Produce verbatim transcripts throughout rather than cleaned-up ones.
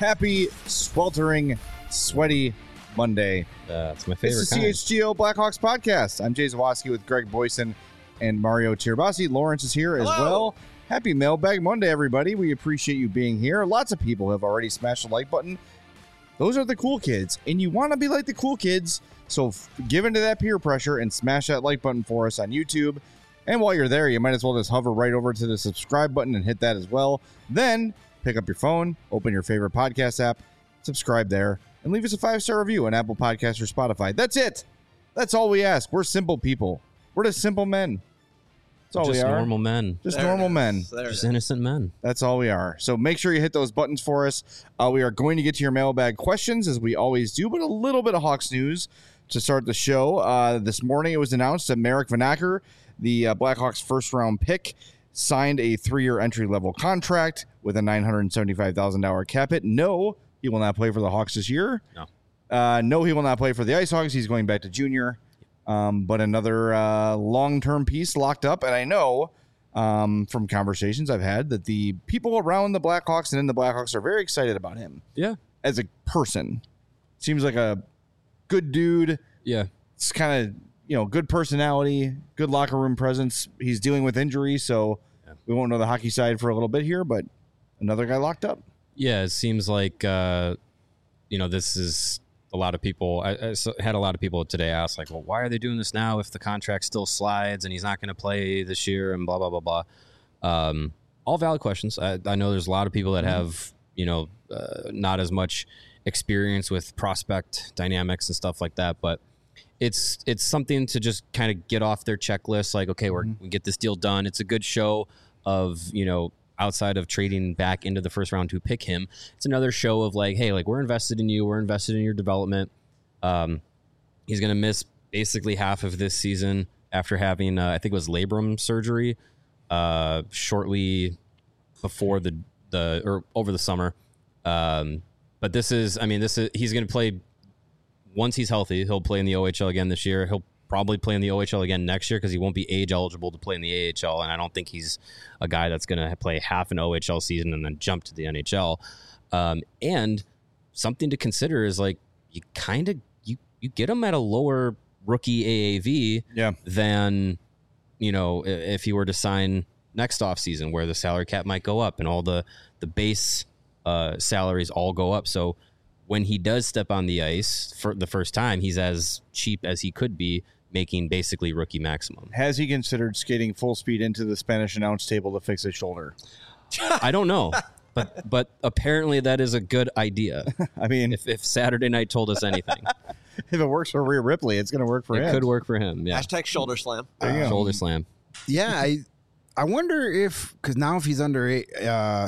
Happy, sweltering, sweaty Monday. That's my favorite It's the kind. C H G O Blackhawks podcast. I'm Jay Zawoski with Greg Boyson and Mario Tirabassi. Lawrence is here as Hello. well. Happy Mailbag Monday, everybody. We appreciate you being here. Lots of people have already smashed the like button. Those are the cool kids, and you want to be like the cool kids, so f- give into that peer pressure and smash that like button for us on YouTube. And while you're there, you might as well just hover right over to the subscribe button and hit that as well. Then pick up your phone, open your favorite podcast app, subscribe there, and leave us a five-star review on Apple Podcasts or Spotify. That's it. That's all we ask. We're simple people. We're just simple men. That's all Just we are. normal men. Just There it normal is. men. There it Just is. innocent men. That's all we are. So make sure you hit those buttons for us. Uh, we are going to get to your mailbag questions as we always do, but a little bit of Hawks news to start the show. Uh, this morning it was announced that Marek Vanacker, the uh, Blackhawks first round pick, signed a three-year entry-level contract with a nine hundred seventy-five thousand dollars cap hit. No, he will not play for the Hawks this year. No. Uh, no, he will not play for the Ice Hogs. He's going back to junior. Um, but another uh, long-term piece locked up. And I know um, from conversations I've had that the people around the Blackhawks and in the Blackhawks are very excited about him Yeah. as a person. Seems like a good dude. Yeah. It's kind of, you know, good personality, good locker room presence. He's dealing with injury, so Yeah. we won't know the hockey side for a little bit here, but another guy locked up. Yeah. It seems like, uh, you know, this is a lot of people. I, I s- had a lot of people today ask, like, well, why are they doing this now if the contract still slides and he's not going to play this year and blah, blah, blah, blah. Um, all valid questions. I, I know there's a lot of people that have, you know, uh, not as much experience with prospect dynamics and stuff like that, but it's it's something to just kind of get off their checklist. Like, okay, we're, we get this deal done. It's a good show of, you know, outside of trading back into the first round to pick him. It's another show of like, hey, like we're invested in you. We're invested in your development. Um, he's going to miss basically half of this season after having, uh, I think it was labrum surgery uh, shortly before the, the, or over the summer. Um, but this is, I mean, this is, he's going to play once he's healthy. He'll play in the O H L again this year. He'll probably play in the O H L again next year because he won't be age eligible to play in the A H L. And I don't think he's a guy that's going to play half an O H L season and then jump to the N H L. Um, and something to consider is like, you kind of, you, you get him at a lower rookie A A V Yeah. than, you know, i- if he were to sign next offseason where the salary cap might go up and all the, the base uh, salaries all go up. So when he does step on the ice for the first time, he's as cheap as he could be, making basically rookie maximum. Has he considered skating full speed into the Spanish announce table to fix his shoulder? I don't know, but but apparently that is a good idea. I mean, If, if Saturday Night told us anything, if it works for Rhea Ripley, it's going to work for it him. could work for him. Yeah, Hashtag shoulder slam. There you go. shoulder slam. Yeah, I I wonder if because now if he's under a uh,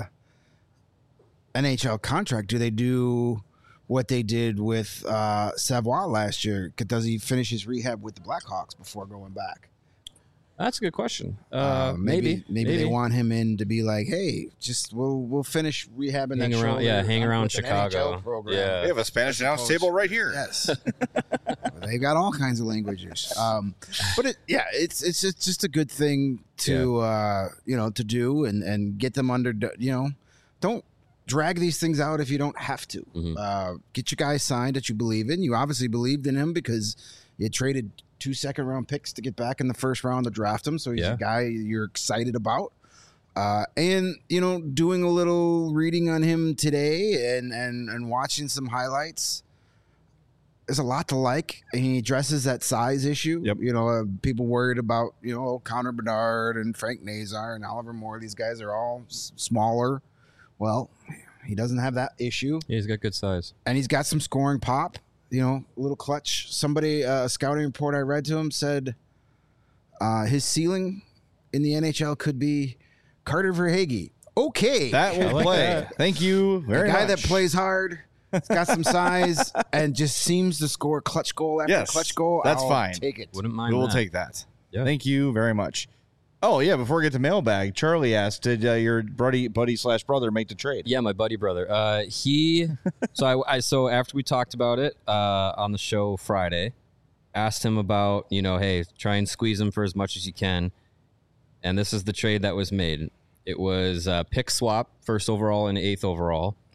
N H L contract, do they do what they did with uh, Savoie last year? Does he finish his rehab with the Blackhawks before going back? That's a good question. Uh, Uh, maybe, maybe, they want him in to be like, hey, just we'll we'll finish rehabbing hang that around. shoulder Yeah, hang uh, around with an N H L Chicago. program. Yeah. We have a Spanish announce Opposed- table right here. Yes, they've got all kinds of languages. Um, but it, yeah, it's it's just, just a good thing to uh, you know to do and and get them under. You know, don't drag these things out if you don't have to. Mhm. Uh, get your guy signed that you believe in. You obviously believed in him because you traded two second round picks to get back in the first round to draft him. So he's Yeah. a guy you're excited about. Uh, and you know, doing a little reading on him today and and and watching some highlights. There's a lot to like. And he addresses that size issue. Yep. You know, uh, people worried about you know Connor Bedard and Frank Nazar and Oliver Moore. These guys are all s- smaller. Well, he doesn't have that issue, Yeah, he's got good size. and he's got some scoring pop. You know, a little clutch. Somebody, uh, a scouting report I read to him said uh, his ceiling in the N H L could be Carter Verhaeghe. Okay, That will I like play. that. Thank you a very guy much. that plays hard. He's got some size and just seems to score clutch goal after Yes, clutch goal. that's I'll fine. Take it. Wouldn't mind We will that. take that. Yeah. Thank you very much. Oh, yeah, before we get to mailbag, Charlie asked, did uh, your buddy buddy slash brother make the trade? Yeah, my buddy brother. Uh, he. so I, I. So after we talked about it uh, on the show Friday, asked him about you know, hey, try and squeeze him for as much as you can, and this is the trade that was made. It was uh, pick swap, first overall and eighth overall,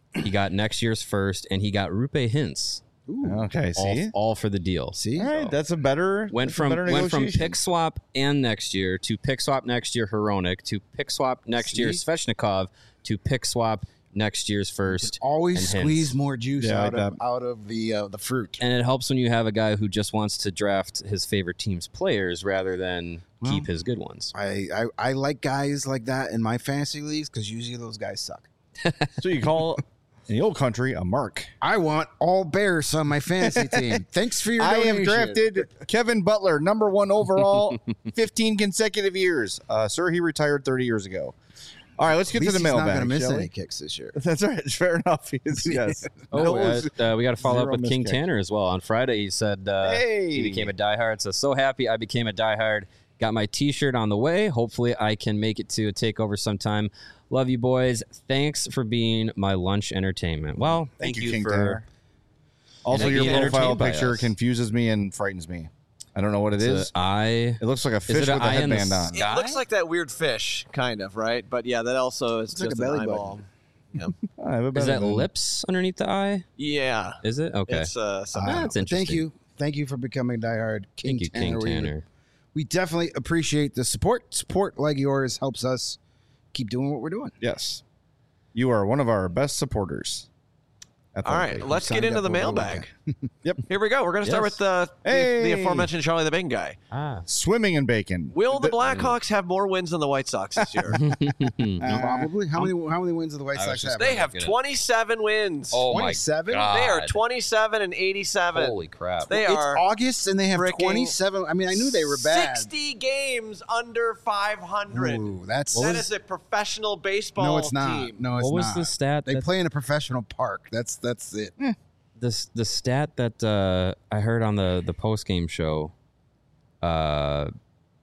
he got next year's first, and he got Rupe Hintz. Ooh. Okay, All, see? all for the deal. See? All right, that's a better Went that's a from better went from negotiation. pick swap and next year to pick swap next year Hronik to pick swap next See? year Svechnikov to pick swap next year's first. Always and squeeze Hintz. more juice Yeah, out like of out of the uh, the fruit. And it helps when you have a guy who just wants to draft his favorite team's players rather than Well, keep his good ones. I, I, I like guys like that in my fantasy leagues because usually those guys suck. So you call in the old country a mark. I want all Bears on my fantasy team. Thanks for your I donation. have drafted Kevin Butler, number one overall, fifteen consecutive years. Uh, sir, he retired thirty years ago. All right, let's At get to least the he's not mailbag. going to miss shall any we? kicks this year. That's right. Fair enough. He is, yes. Oh, No, uh, uh, we got to follow up zero with King missed kick. Tanner as well. On Friday, he said uh, Hey. he became a diehard. So, so happy I became a diehard. Got my T-shirt on the way. Hopefully, I can make it to a takeover sometime. Love you, boys. Thanks for being my lunch entertainment. Well, thank, you, King for Tanner. Also, and your being profile entertained by picture us. confuses me and frightens me. I don't know what it It's a is. eye. It looks like a fish it a with a eye in the headband on. sky? It looks like that weird fish, kind of, right? But yeah, that also is It's like just a belly an button. eyeball. Yeah. I have a Is belly that button. lips underneath the eye? yeah. Is it? Okay. It's uh, something. Ah, that's But interesting. Thank you. Thank you for becoming diehard King Thank you, Tanner. King We- Tanner. We definitely appreciate the support. Support like yours helps us keep doing what we're doing. Yes. You are one of our best supporters. All right, let's signed get into up the over the mailbag. Yep. Here we go. We're going to start Yes. with uh, the, the Hey. aforementioned Charlie the Bacon guy. Ah. Swimming in bacon. Will the The- Blackhawks have more wins than the White Sox this year? Probably. How many how many wins do the White I was Sox just- have? they have Get it. twenty-seven wins. Oh my twenty-seven? god! They are twenty-seven and eighty-seven. Holy crap! They It's are August and they have freaking twenty-seven. I mean, I knew they were bad. sixty games under five hundred. Ooh, that's That is a professional baseball no, it's not. team. No, it's what was not. the stat? They that, play in a professional park. That's that's it. this the stat that uh, I heard on the the post game show uh,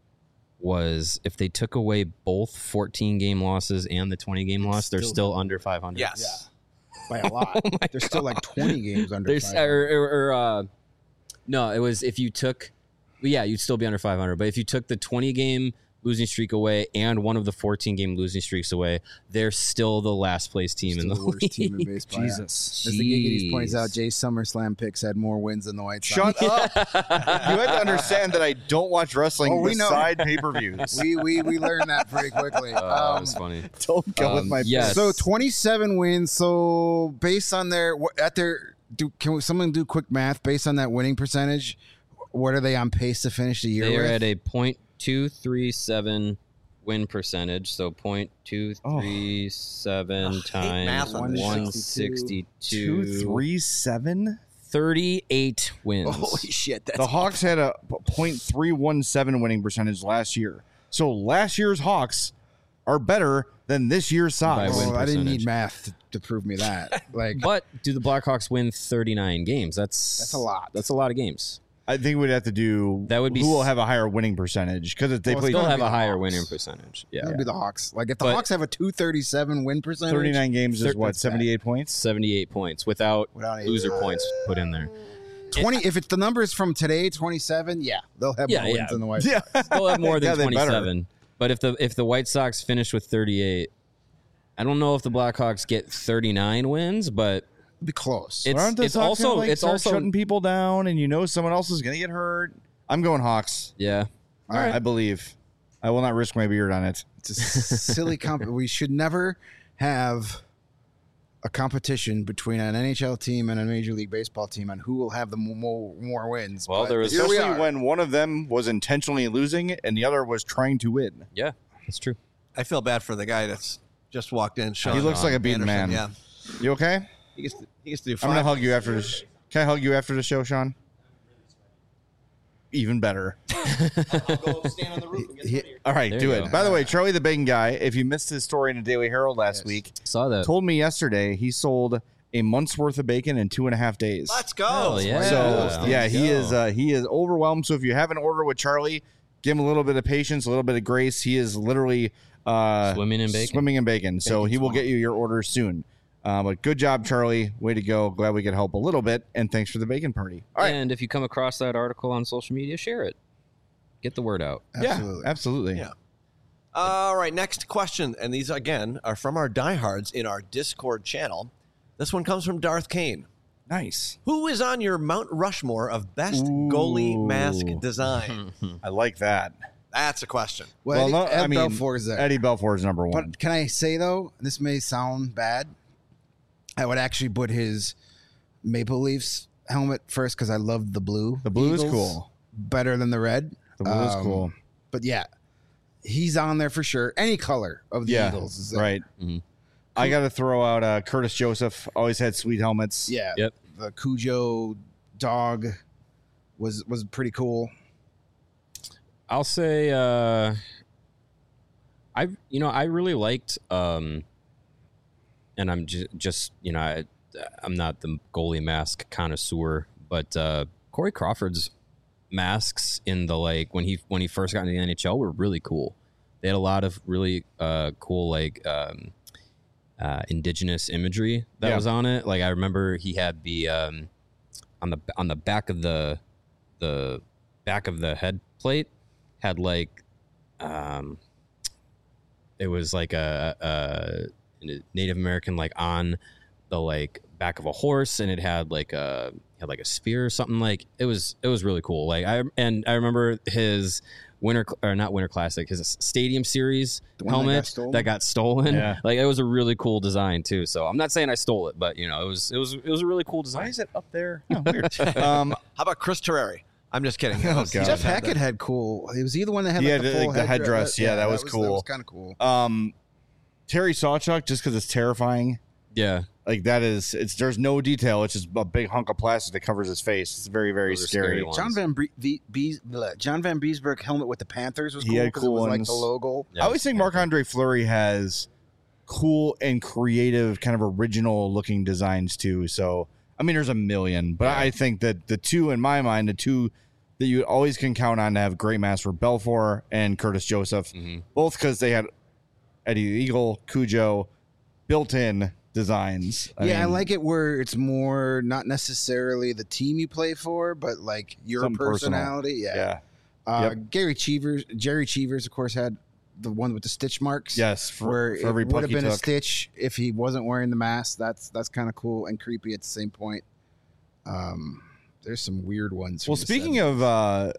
was if they took away both fourteen game losses and the twenty game loss, they're still- still under five hundred. Yes. By a lot. There's still like twenty games under. There's five hundred. or, or, or uh, no, it was if you took, well, yeah, you'd still be under five hundred. But if you took the twenty game losing streak away and one of the fourteen game losing streaks away, they're still the last place team Still in the, the worst team in league. baseball. yeah. Jesus. As the Giggities points Jeez. out, Jay SummerSlam picks had more wins than the White Sox. Shut up. You have to understand that I don't watch wrestling Oh, we know. beside pay-per-views. we we we learned that pretty quickly. Oh, that Um, was funny. Don't go with Um, my yes. So twenty-seven wins. So based on their what- at their do can someone do quick math based on that winning percentage? What are they on pace to finish the year They are with? at a point two three seven win percentage. So point two three seven Ugh, I hate times math on this one show. sixty two, two. three, seven. thirty-eight wins. Holy shit! That's The Hawks had a point three one seven winning percentage last year. So last year's Hawks are better than this year's By Sox. win Oh, I didn't percentage. need math to, to prove me that. Like But do the Blackhawks win thirty-nine games? That's That's a lot. That's a lot of games. I think we'd have to do That would be who will s- have a higher winning percentage because they Well, play it's Still gonna have be a the higher Hawks. winning percentage. Yeah, that would be the Hawks. Like if the But- Hawks have a two thirty-seven win percentage, thirty-nine games is Thir- what that's bad. seventy-eight points. seventy-eight points without, Without any- loser points put in there. twenty. If it's the numbers from today, twenty-seven, yeah, they'll have Yeah, more yeah. wins than the White. Yeah, Still have more Yeah, than they better. twenty-seven. But if the if the White Sox finish with thirty-eight, I don't know if the Blackhawks get thirty-nine wins, but It'd be close. it's Aren't the it's Sox also gonna, like, it's start also shutting people down, and you know someone else is going to get hurt. I'm going Hawks. yeah. All right. I believe. I will not risk my beard on it. It's a silly comp. We should never have a competition between an N H L team and a Major League Baseball team on who will have the more more wins. Well, But there was- here we Especially are. when one of them was intentionally losing and the other was trying to win. Yeah, that's true. I feel bad for the guy that's just walked in. Sean He looks like a beaten Anderson, man. Yeah, You okay? he gets to, he gets to do I'm five. gonna hug you after this. Can I hug you after the show, Sean? Even better. He- All right, There do you it. go. By the way, Charlie the Bacon Guy, if you missed his story in the Daily Herald last week, Saw that. told me yesterday he sold a month's worth of bacon in two and a half days. Let's go. Hell yeah. So Yeah. yeah, he Go. is uh, he is overwhelmed. So if you have an order with Charlie, give him a little bit of patience, a little bit of grace. He is literally uh, Swimming in bacon. Swimming in bacon. So Bacon he will swamp. get you your order soon. Uh, but good job, Charlie. Way to go. Glad we could help a little bit. And thanks for the bacon party. All right. And if you come across that article on social media, share it. Get the word out. Absolutely. Yeah, absolutely. Yeah. All right, next question. And these, again, are from our diehards in our Discord channel. This one comes from Darth Kane. Nice. Who is on your Mount Rushmore of best Ooh. goalie mask design? I like that. That's a question. Well, Well, Eddie, no, Ed I mean, Belfour is there. Eddie Belfour is number one. But can I say, though, this may sound bad. I would actually put his Maple Leafs helmet first because I love the blue. The blue is Eagles cool. Better than the red. The blue is Um, cool. But yeah, he's on there for sure. Any color of the Yeah, Eagles is there. right. Mhm. I got to throw out uh, Curtis Joseph. Always had sweet helmets. Yeah. Yep. The Cujo dog was was pretty cool. I'll say uh I you know I really liked um and I'm just just you know I, I'm not the goalie mask connoisseur, but uh Corey Crawford's masks in the like when he when he first got into the N H L were really cool. They had a lot of really uh cool like um uh indigenous imagery that Yeah. was on it. Like I remember he had the um on the on the back of the the back of the head plate had like um it was like a, a Native American like on the like back of a horse, and it had like a had like a spear or something. Like it was it was really cool. Like I and I remember his winter or not winter classic, his stadium series The one that got helmet stolen? that got stolen. Yeah. Like it was a really cool design too. So I'm not saying I stole it, but you know it was it was it was a really cool Why design. is it up there? Oh, weird. um, How about Chris Terreri? I'm just kidding. Oh, God. Jeff Hackett had cool. It was either one that had He like had, the full like, the headdress. headdress. Yeah, that was That cool. was kind of cool. um, Terry Sawchuk, just because it's terrifying. Yeah. Like that is, it's there's no detail. It's just a big hunk of plastic that covers his face. It's very, very Those are scary. scary ones. John Van Bre- v- Bees- bleh. John Van Beesbrook helmet with the Panthers was He cool had because cool it was like ones. the logo. Yeah, I always think Marc Andre Fleury has cool and creative, kind of original looking designs too. So I mean, there's a million, but Yeah. I think that the two in my mind, the two that you always can count on to have great masks were Belfour and Curtis Joseph, Mhm. both because they had Eddie the Eagle, Cujo, built-in designs. yeah, I mean, like it where it's more not necessarily the team you play for, but like your Something personal. personality. Yeah. Yeah. Uh, Yep. Gary Cheevers, Jerry Cheevers, of course, had the one with the stitch marks. Yes. For, where for every it would puck have he been a took. stitch if he wasn't wearing the mask. That's that's kind of cool and creepy at the same point. Um, there's some weird ones. from Well, the speaking seventies. of uh,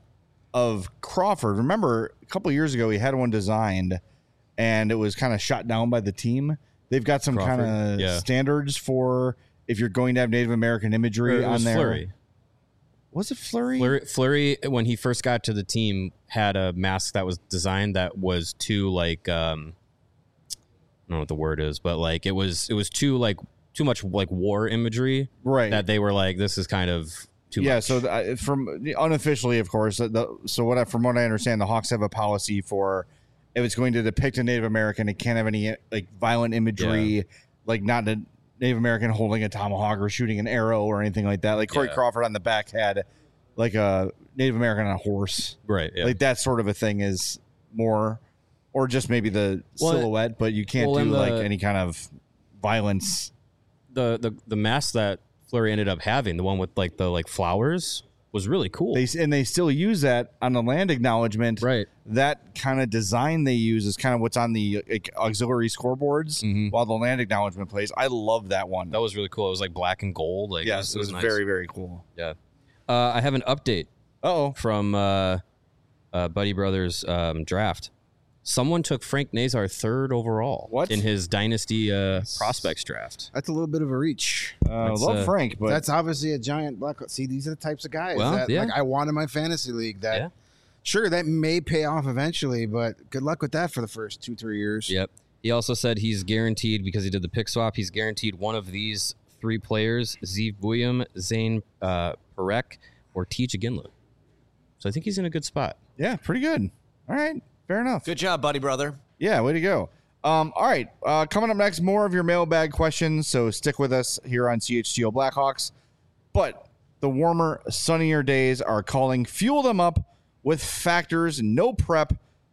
of Crawford, remember a couple years ago he had one designed, and it was kind of shot down by the team. They've got some kind Crawford? of Yeah. standards for if you're going to have Native American Or imagery it on was there. Fleury. Was it Flurry? Fleury, Fleury, when he first got to the team, had a mask that was designed that was too like um, I don't know what the word is, but like it was it was too like too much like war imagery Right. that they were like this is kind of too yeah. much. So the, I- from unofficially, of course. The, so what I, from what I understand, the Hawks have a policy for if it's going to depict a Native American, it can't have any like violent imagery, like not a Native American holding a tomahawk or shooting an arrow or anything like that. Like Corey Yeah. Crawford on the back had like a Native American on a horse. right. Yeah. Like that sort of a thing is more, or just maybe the Well, silhouette, but you can't well, do and like the- any kind of violence. the the the mask that Fleury ended up having, the one with like the like flowers, was really cool. They and they still use that on the land acknowledgement. right. That kind of design they use is kind of what's on the like, auxiliary scoreboards Mhm. while the land acknowledgement plays. I love that one. That was really cool. It was like black and gold. Like yes, it was, nice. very very cool. Yeah. Uh, I have an update Oh, from uh, uh, Buddy Brothers um, draft. Someone took Frank Nazar third overall What? in his Dynasty uh, prospects draft. that's a little bit of a reach. uh, That's, love uh, Frank, but That's obviously a giant black. See, these are the types of guys Well, that yeah. like I want in my fantasy league. That Yeah. sure that may pay off eventually, but good luck with that for the first two three years. Yep. He also said he's guaranteed, because he did the pick swap, he's guaranteed one of these three players, Zeev Buyam, Zane uh, Parekh, or Teach Aginla. So I think he's in a good spot. yeah, pretty good. All right, fair enough. Good job, buddy, brother. Yeah, way to go. Um, all right, uh, coming up next, more of your mailbag questions. So stick with us here on C H G O Blackhawks. But the warmer, sunnier days are calling. Fuel them up with Factors. No prep,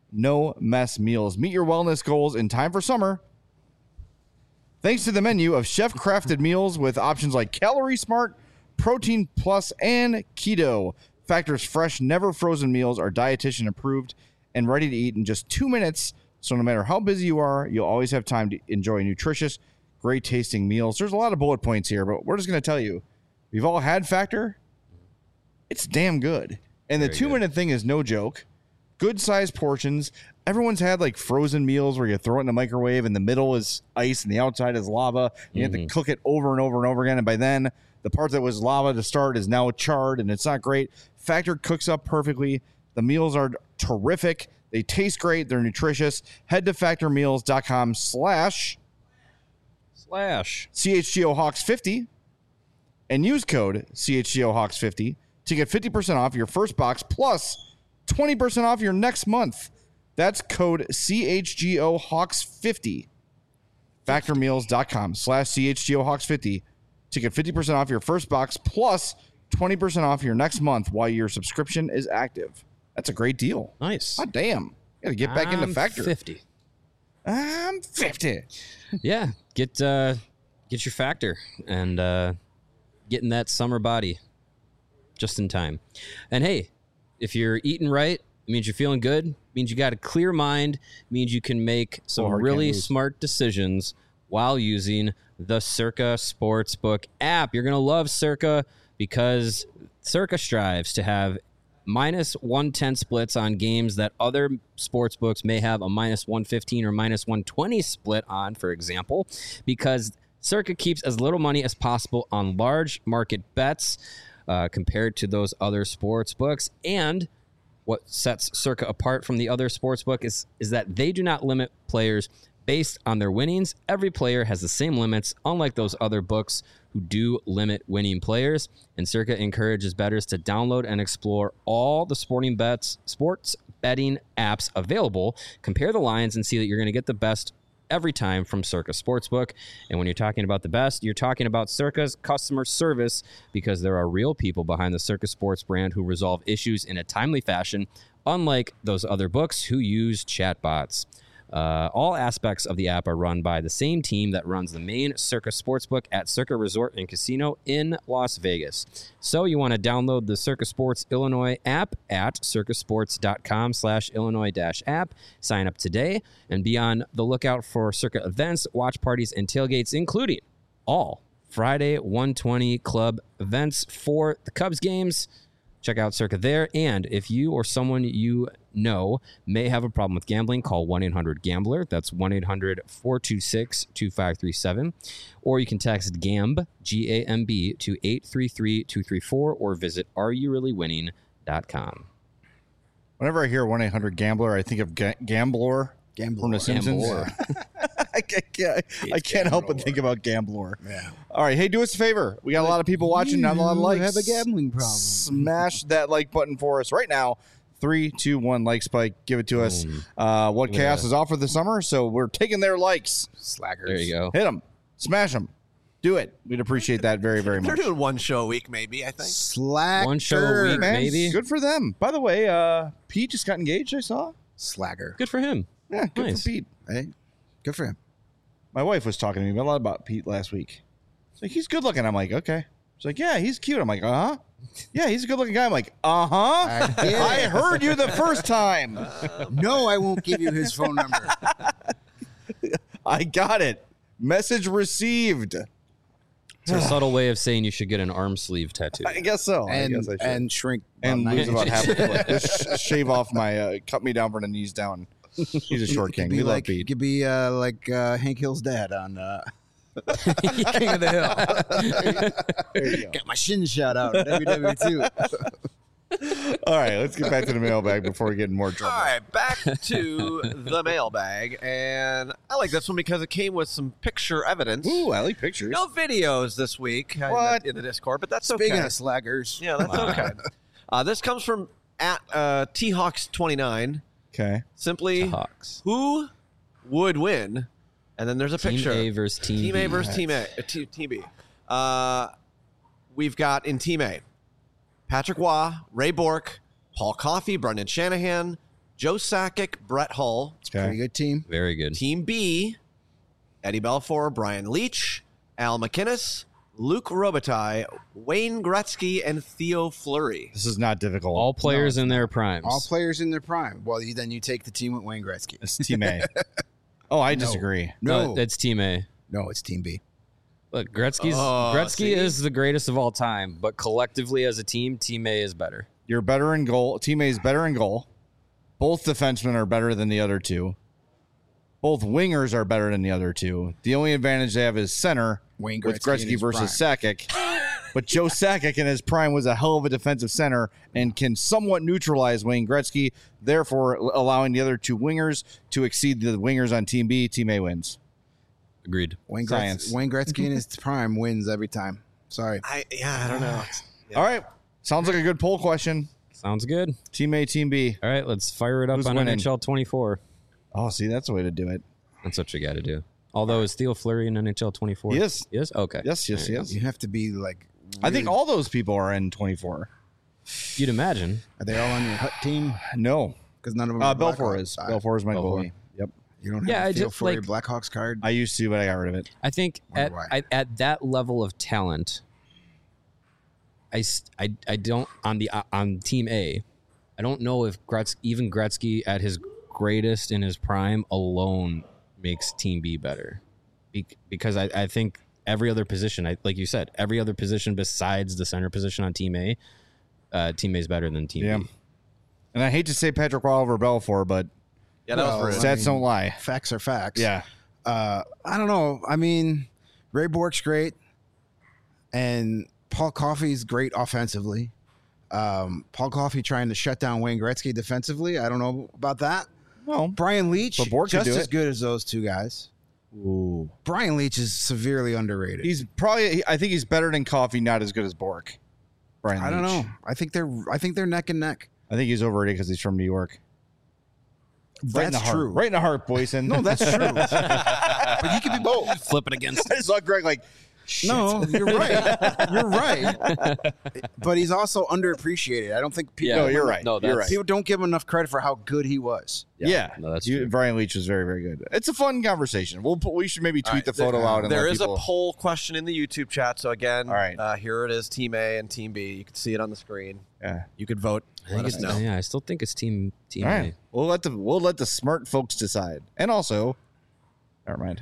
no mess meals. Meet your wellness goals in time for summer. Thanks to the menu of chef-crafted meals with options like Calorie Smart, Protein Plus, and Keto. Factor's fresh, never frozen meals are dietitian approved and ready to eat in just two minutes. So no matter how busy you are, you'll always have time to enjoy nutritious, great tasting meals. There's a lot of bullet points here, but we're just going to tell you, we've all had Factor. It's damn good. And the Very two good. minute thing is no joke. Good sized portions. Everyone's had like frozen meals where you throw it in the microwave and the middle is ice and the outside is lava. You have to cook it over and over and over again. And by then, the part that was lava to start is now charred and it's not great. Factor cooks up perfectly. The meals are terrific. They taste great. They're nutritious. Head to factormeals.com slash Slash. C H G O Hawks fifty and use code C H G O Hawks fifty to get fifty percent off your first box plus twenty percent off your next month. That's code C H G O Hawks fifty. Factormeals.com slash C H G O Hawks fifty to get fifty percent off your first box plus twenty percent off your next month while your subscription is active. That's a great deal. Nice. God damn. Gotta get back into I'm Factor. fifty. I'm fifty. Yeah, get uh, get your Factor and uh, get in that summer body just in time. And hey, if you're eating right, it means you're feeling good, means you got a clear mind, means you can make some Oh, hard really can't lose. smart decisions while using the Circa Sportsbook app. You're going to love Circa because Circa strives to have minus one ten splits on games that other sports books may have a minus one fifteen or minus one twenty split on, for example, because Circa keeps as little money as possible on large market bets uh, compared to those other sports books. And what sets Circa apart from the other sports book is, is that they do not limit players based on their winnings. Every player has the same limits, unlike those other books who do limit winning players. And Circa encourages bettors to download and explore all the sporting bets, sports betting apps available, compare the lines, and see that you're going to get the best every time from Circa Sportsbook. And when you're talking about the best, you're talking about Circa's customer service, because there are real people behind the Circa Sports brand who resolve issues in a timely fashion, unlike those other books who use chatbots. Uh, all aspects of the app are run by the same team that runs the main Circa Sportsbook at Circa Resort and Casino in Las Vegas. So you want to download the Circa Sports Illinois app at circasports.com slash Illinois dash app. Sign up today and be on the lookout for Circa events, watch parties, and tailgates, including all Friday one twenty club events for the Cubs games. Check out Circa there. And if you or someone you know may have a problem with gambling, call one eight hundred gambler. That's one eight hundred four two six two five three seven. Or you can text GAMB, G A M B, to eight three three two three four or visit are you really winning dot com. Whenever I hear one eight hundred gambler, I think of ga- Gambler Gambler. from The Simpsons. Gambler. I can't, I can't help but think about Gambler. Yeah. All right. Hey, do us a favor. We got a lot of people watching, not a lot of You likes. have a gambling problem. Smash that like button for us right now. Three, two, one, like spike. Give it to us. Uh, what Yeah. Chaos is offered this summer, so we're taking their likes. Slackers. There you go. Hit them. Smash them. Do it. We'd appreciate that very, very They're much. doing one show a week, maybe, I think. Slacker. One show a week, Man, maybe. good for them. By the way, uh, Pete just got engaged, I saw. Slacker. Good for him. Yeah, good Nice. for Pete. Hey, good for him. My wife was talking to me a lot about Pete last week. She's like, he's good looking. I'm like, okay. She's like, yeah, he's cute. I'm like, uh huh. Yeah, he's a good looking guy. I'm like, uh huh. I get it. I heard you the first time. No, I won't give you his phone number. I got it. Message received. It's a subtle way of saying you should get an arm sleeve tattoo. I guess so. I And, guess I should. and shrink. And about lose nine about half inches. a foot. Just sh- shave off my, uh, cut me down from the knees down. He's a short Could king. be We love like, Pete. could be uh, like uh, Hank Hill's dad on uh, King of the Hill. There you go. Got my shin shot out in W W two. All right, let's get back to the mailbag before we get in more trouble. All right, back to the mailbag. And I like this one because it came with some picture evidence. Ooh, I like pictures. No videos this week uh, in What? the, in the Discord, but that's Speaking okay. of slackers, Yeah, that's okay. Uh, this comes from at uh, T Hawks twenty-nine. Okay. Simply, Hawks. who would win? And then there's a Team picture. A versus Team, Team B. A versus Team A. Uh, T- Team B. Uh, we've got in Team A, Patrick Waugh, Ray Bork, Paul Coffey, Brendan Shanahan, Joe Sakic, Brett Hull. pretty Okay. good team. Very good. Team B, Eddie Belfour, Brian Leach, Al McInnes, Luke Robitaille, Wayne Gretzky, and Theo Fleury. This is not difficult. All players in their primes. All players in their prime. Well, you, then you take the team with Wayne Gretzky. It's Team A. Oh, I disagree. No, No, that's Team A. No, it's Team B. Look, Gretzky's Oh, Gretzky see? is the greatest of all time, but collectively as a team, Team A is better. You're better in goal. Team A is better in goal. Both defensemen are better than the other two. Both wingers are better than the other two. The only advantage they have is center Wayne with Gretzky in Gretzky his versus prime. Sakic. But Joe Sakic in his prime was a hell of a defensive center and can somewhat neutralize Wayne Gretzky, therefore allowing the other two wingers to exceed the wingers on Team B. Team A wins. Agreed. Wayne, Science. Gretz- Wayne Gretzky in his prime wins every time. Sorry. I yeah, I don't know. Yeah. All right. Sounds like a good poll question. Sounds good. Team A, Team B. All right, let's fire it up Who's on winning? N H L twenty-four. Oh, see, that's the way to do it. That's what you got to do. Although, is Theo Fleury in N H L twenty-four? He is. Yes? Okay. Yes, yes, There you yes. You have to be like. I think really- all those people are in twenty-four. go. You'd imagine. Are they all on your Hut team? No. Because none of them. Uh, are Belfour Blackhawks. is. Uh, Belfour is my Belfour. goalie. Yep. You don't have Yeah, a I feel just, for your like- Blackhawks card. I used to, but I got rid of it. I think at, Wonder why. at at that level of talent, I, s- I, I don't on the on Team A, I don't know if Gretz, even Gretzky at his greatest in his prime alone makes Team B better, Be- because I, I think every other position, I, like you said, every other position besides the center position on Team A, uh, Team A is better than Team Yeah. B. And I hate to say Patrick Roy over Belfour, but Yeah, that Well, was rude. stats mean- don't lie. Facts are facts. Yeah. Uh, I don't know. I mean, Ray Bork's great, and Paul Coffey's great offensively. Um, Paul Coffey trying to shut down Wayne Gretzky defensively. I don't know about that. No. Brian Leach, But Bork could just do as it. good as those two guys. Ooh. Brian Leach is severely underrated. He's probably, I think he's better than Coffee, not as good as Bork. Brian I don't Leach. know. I think they're. I think they're neck and neck. I think he's overrated because he's from New York. Right in the That's heart. true. Right in the heart, Boyson. No, that's true. But you could be both. Flip it against. I saw Greg like, shit. No, you're right. You're right. But he's also underappreciated. I don't think people. No, you're right. No, you're that's- right. People don't give him enough credit for how good he was. Yeah. no, that's You- true. Brian Leach was very, very good. It's a fun conversation. We'll put, we should maybe tweet All right, the photo there- out. And There let is people, a poll question in the YouTube chat. So again, All right. uh, here it is: Team A and Team B. You can see it on the screen. Yeah. You could vote. I think Let us it's, know. yeah, I still think it's Team Team All A. right. We'll let the we'll let the smart folks decide. And also, never mind.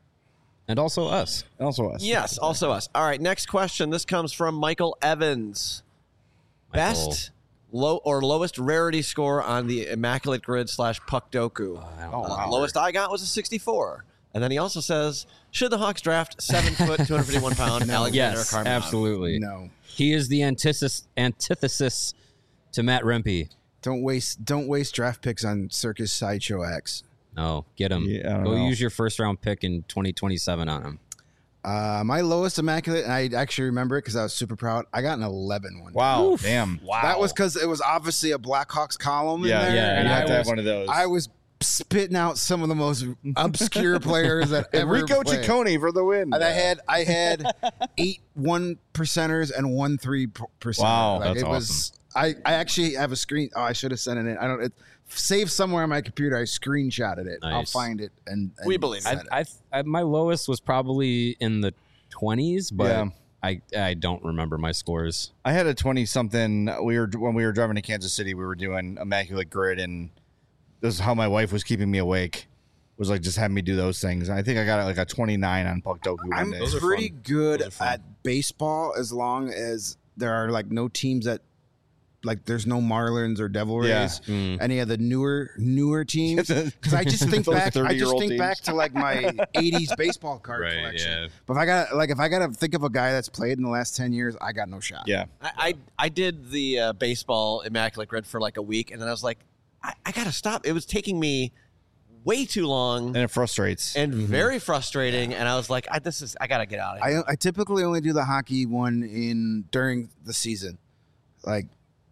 And also us. And also us. Yes, also us. All right, next question. This comes from Michael Evans. Michael. Best low or lowest rarity score on the Immaculate Grid slash Puck Doku. I don't Oh, know. wow. Lowest I got was a sixty-four. And then he also says, should the Hawks draft seven foot, two hundred fifty-one pound Alexander Yes, Karmenov? absolutely. No, He is the antithesis antithesis to Matt Rempe. don't waste don't waste draft picks on Circus Sideshow X. No, get him. Yeah, I don't Go know. use your first round pick in twenty twenty-seven on him. Uh, my lowest immaculate, and I actually remember it because I was super proud. I got an eleven one. Wow. Damn. Wow. That was because it was obviously a Blackhawks column Yeah. in there. Yeah, You and have I to have was, one of those. I was spitting out some of the most obscure players that ever Enrico played. Ciccone for the win. And I had I had eight one percenters and one three percent. Wow, that's it was. I, I actually have a screen. Oh, I should have sent it in. I don't. It saved somewhere on my computer. I screenshotted it. I'll Nice. find it and, and We believe send I, it. I, I my lowest was probably in the twenties, but Yeah. I I don't remember my scores. I had a twenty something. We were when we were driving to Kansas City. We were doing Immaculate Grid, and this is how my wife was keeping me awake. Was like just having me do those things. And I think I got like a twenty-nine on Puck Doku one I'm day. Those are pretty fun. good Those are fun. at baseball as long as there are like no teams that like there's no Marlins or Devil Rays. Yeah. Mm. Any of the newer newer teams. Because I just think Those back. I just thirty-year-old think teams. back to like my eighties baseball card Right, collection. yeah. But if I got like if I got to think of a guy that's played in the last ten years, I got no shot. Yeah. I, I, I did the uh, baseball Immaculate Grid for like a week, and then I was like, I, I got to stop. It was taking me way too long And it frustrates. and very frustrating, and I was like, I, this is, I got to get out of here. I I typically only do the hockey one in during the season, like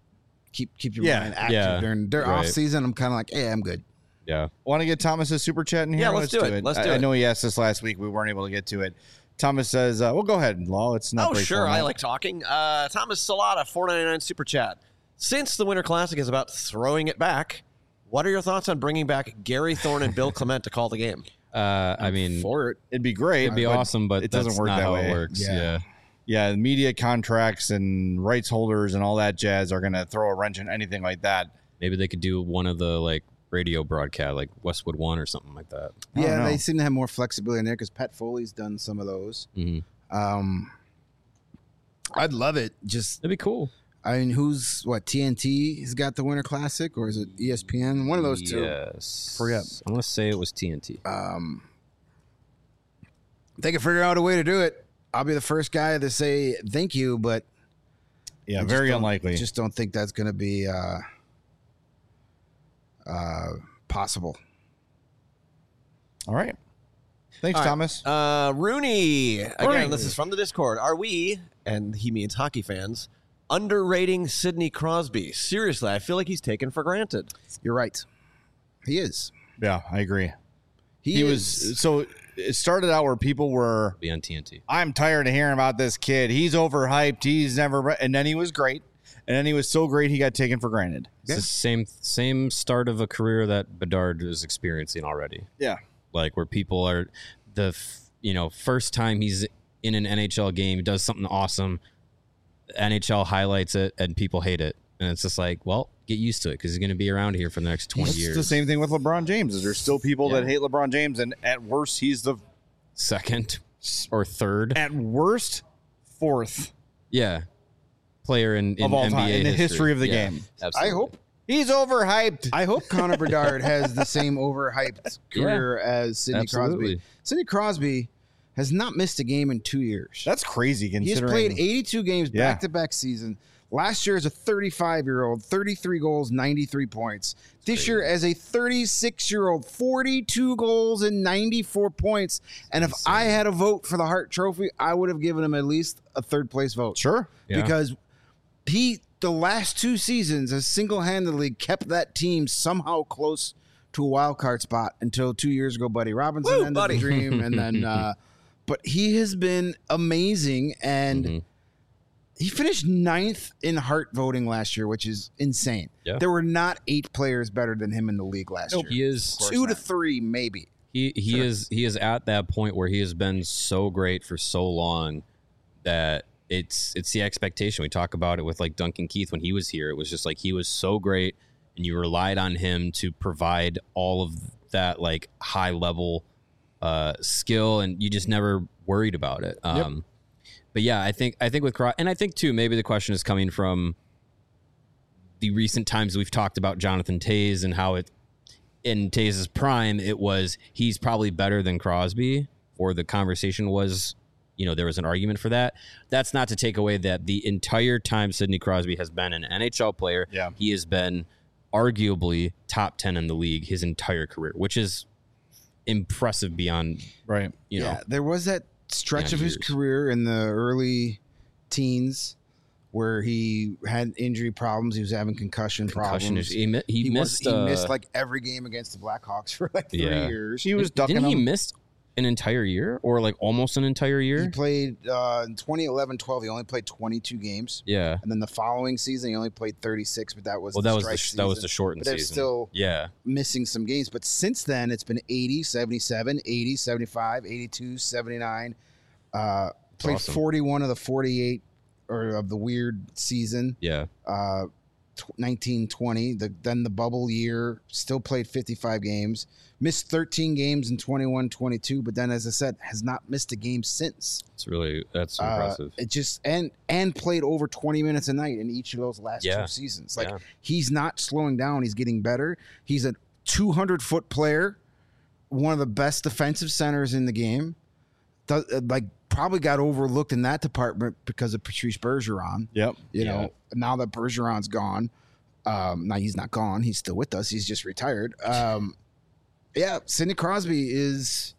keep keep your Yeah, mind active yeah, during during right. off season. I'm kind of like, hey, I'm good. Yeah. Want to get Thomas's super chat in here? Yeah, let's do it. Let's do I, I it. know he asked this last week. We weren't able to get to it. Thomas says, uh, "Well, go ahead, Law. It's not. Oh, great sure. I format. like talking. Uh, Thomas Salata, four ninety-nine super chat. Since the Winter Classic is about throwing it back, what are your thoughts on bringing back Gary Thorne and Bill Clement to call the game? Uh, I mean, For it, It'd be great. it'd be but awesome, but it that's doesn't work not that how way. it works. Yeah. Yeah. Yeah, the media contracts and rights holders and all that jazz are going to throw a wrench in anything like that. Maybe they could do one of the like radio broadcast, like Westwood One or something like that. I don't Yeah, know. they seem to have more flexibility in there because Pat Foley's done some of those. Mm-hmm. Um, I'd love it. Just, That'd be cool. I mean, who's what? T N T has got the Winter Classic, or is it E S P N? One of those two. Yes. Forget. I'm gonna say it was T N T. Um, if they can figure out a way to do it, I'll be the first guy to say thank you. But Yeah, I just very don't- unlikely. Just don't think that's going to be uh, uh, possible. All right. Thanks, All right. Thomas. Uh, Rooney. Again, Rooney. this is from the Discord. Are we, and he means hockey fans, underrating Sidney Crosby? Seriously, I feel like he's taken for granted. You're right. He is. Yeah, I agree. He, He is. was so it started out where people were Be on T N T. I'm tired of hearing about this kid. He's overhyped. He's never and then he was great. And then he was so great he got taken for granted. It's the same same start of a career that Bedard is experiencing already. Yeah. Like where people are the f- you know first time he's in an N H L game, he does something awesome. N H L highlights it and people hate it, and it's just like, well, get used to it because he's going to be around here for the next twenty It's years. the same thing with LeBron James. Is there's still people Yeah. that hate LeBron James, and at worst he's the Second or third, at worst fourth yeah, player in, in of all N B A time in the history of the Yeah, game. absolutely. I hope. He's overhyped. I hope Connor Bedard has the same overhyped career as Sidney Absolutely. Crosby. Sidney Crosby has not missed a game in two years. That's crazy He's considering played eighty-two games Yeah. back to back season. Last year as a thirty-five-year-old, thirty-three goals, ninety-three points. This year as a thirty-six-year-old, forty-two goals and ninety-four points. And if I had a vote for the Hart Trophy, I would have given him at least a third place vote. Sure. Yeah. Because he, the last two seasons, has single-handedly kept that team somehow close to a wild card spot until two years ago, Buddy Robinson Woo, ended buddy. the dream, and then, uh, but he has been amazing, and Mhm. he finished ninth in Hart voting last year, which is insane. Yeah. There were not eight players better than him in the league last year. He is Two to three, maybe. He he Sure. is he is at that point where he has been so great for so long that it's it's the expectation. We talk about it with like Duncan Keith when he was here. It was just like he was so great, and you relied on him to provide all of that like high level uh, skill, and you just never worried about it. Um, But yeah, I think I think with Cro- and I think too maybe the question is coming from the recent times we've talked about Jonathan Toews and how it. In Taze's prime, it was he's probably better than Crosby, or the conversation was, you know, there was an argument for that. That's not to take away that the entire time Sidney Crosby has been an N H L player, Yeah. he has been arguably top ten in the league his entire career, which is impressive beyond, Right. you know, Yeah, there was that stretch Yeah, of his years. career in the early teens where he had injury problems. He was having concussion, concussion. problems. issue. He, mi- he, He, was, missed. he uh, missed like every game against the Blackhawks for like three Yeah. years. He was ducking didn't he them. miss an entire year or like almost an entire year? He played uh, in twenty eleven twelve. He only played twenty-two games, yeah. and then the following season he only played thirty-six. But that was Well, the that was the strike sh- that was season. the shortened But they're season. still yeah. missing some games. But since then, it's been eighty, seventy-seven, eighty, seventy-five, eighty-two, seventy-nine. Uh, played awesome. forty-one of the forty-eight or of the weird season. Yeah. Uh, tw- nineteen twenty. The, then the bubble year, still played fifty-five games. Missed thirteen games in twenty-one twenty-two, but then, as I said, has not missed a game since. It's really that's Uh, impressive. it just and and played over twenty minutes a night in each of those last Yeah. two seasons. Like Yeah. he's not slowing down. He's getting better. He's a two hundred foot player, one of the best defensive centers in the game. Does, uh, like probably got overlooked in that department because of Patrice Bergeron. Yep. You Yeah. know, now that Bergeron's gone, um, now he's not gone. He's still with us. He's just retired. Um, yeah, Sidney Crosby is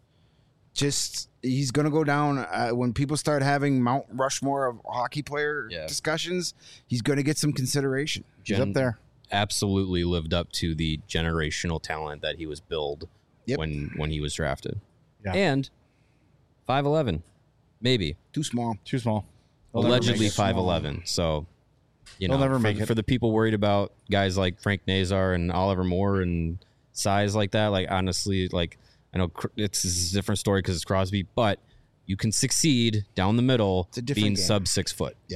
just he's going to go down uh, when people start having Mount Rushmore of hockey player Yeah. discussions. He's going to get some consideration. He's Gen- up there. absolutely lived up to the generational talent that he was billed Yep. when when he was drafted. Yeah. And five eleven, maybe Too small. Too small. They'll never allegedly make it. five eleven. So you They'll know, never for, make it. for the people worried about guys like Frank Nazar and Oliver Moore and size like that. Like honestly, like I know cr- it's, it's a different story because it's Crosby, but you can succeed down the middle It's a different being game. sub six foot. Yeah.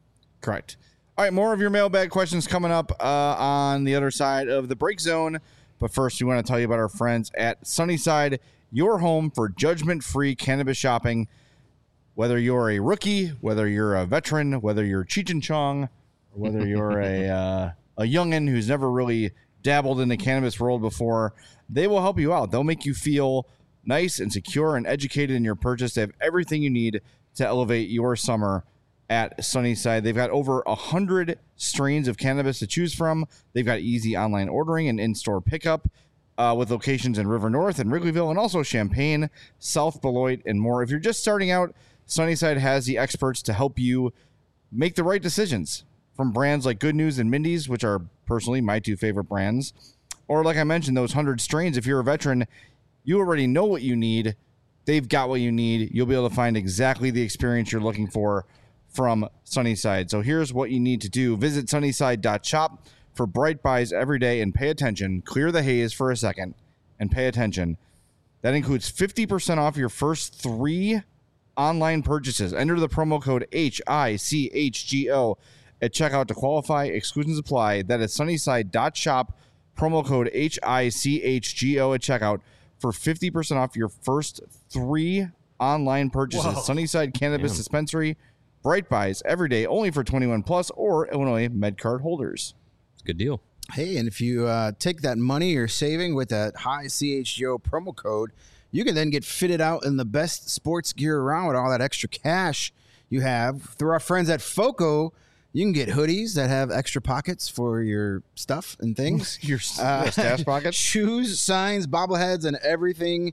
Correct. All right, more of your mailbag questions coming up uh, on the other side of the break zone. But first, we want to tell you about our friends at Sunnyside, your home for judgment-free cannabis shopping. Whether you're a rookie, whether you're a veteran, whether you're Cheech and Chong, or whether you're a uh, a youngin' who's never really dabbled in the cannabis world before, they will help you out. They'll make you feel nice and secure and educated in your purchase. They have everything you need to elevate your summer at Sunnyside. They've got over one hundred strains of cannabis to choose from. They've got easy online ordering and in-store pickup uh, with locations in River North and Wrigleyville and also Champaign, South Beloit, and more. If you're just starting out, Sunnyside has the experts to help you make the right decisions, from brands like Good News and Mindy's, which are personally my two favorite brands, or like I mentioned, those one hundred strains. If you're a veteran, you already know what you need. They've got what you need. You'll be able to find exactly the experience you're looking for from Sunnyside. So here's what you need to do. Visit sunnyside dot shop for bright buys every day and pay attention. Clear the haze for a second and pay attention. That includes fifty percent off your first three online purchases. Enter the promo code H I C H G O at checkout to qualify. Exclusions apply. That is sunnyside dot shop, promo code H I C H G O at checkout for fifty percent off your first three online purchases. Whoa. Sunnyside Cannabis Damn. Dispensary. Bright buys every day, only for twenty-one plus or Illinois MedCard holders. It's a good deal. Hey, and if you uh, take that money you're saving with that high C H G O promo code, you can then get fitted out in the best sports gear around with all that extra cash you have. Through our friends at FOCO, you can get hoodies that have extra pockets for your stuff and things. Your Uh, stash pockets? Shoes, signs, bobbleheads, and everything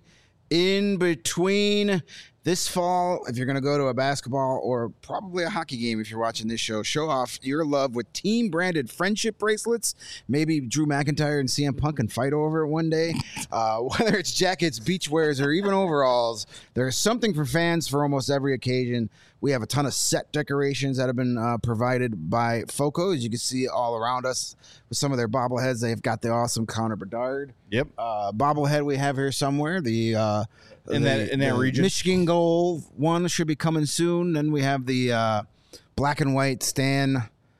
in between. This fall, if you're going to go to a basketball or probably a hockey game, if you're watching this show, show off your love with team-branded friendship bracelets. Maybe Drew McIntyre and C M Punk can fight over it one day. Uh, whether it's jackets, beach wears, or even overalls, there's something for fans for almost every occasion. We have a ton of set decorations that have been uh, provided by FOCO, as you can see all around us with some of their bobbleheads. They've got the awesome Connor Bedard Yep. uh, bobblehead we have here somewhere. The uh, In the- that- in that the region. Michigan goal one should be coming soon. Then we have the uh, black and white Stan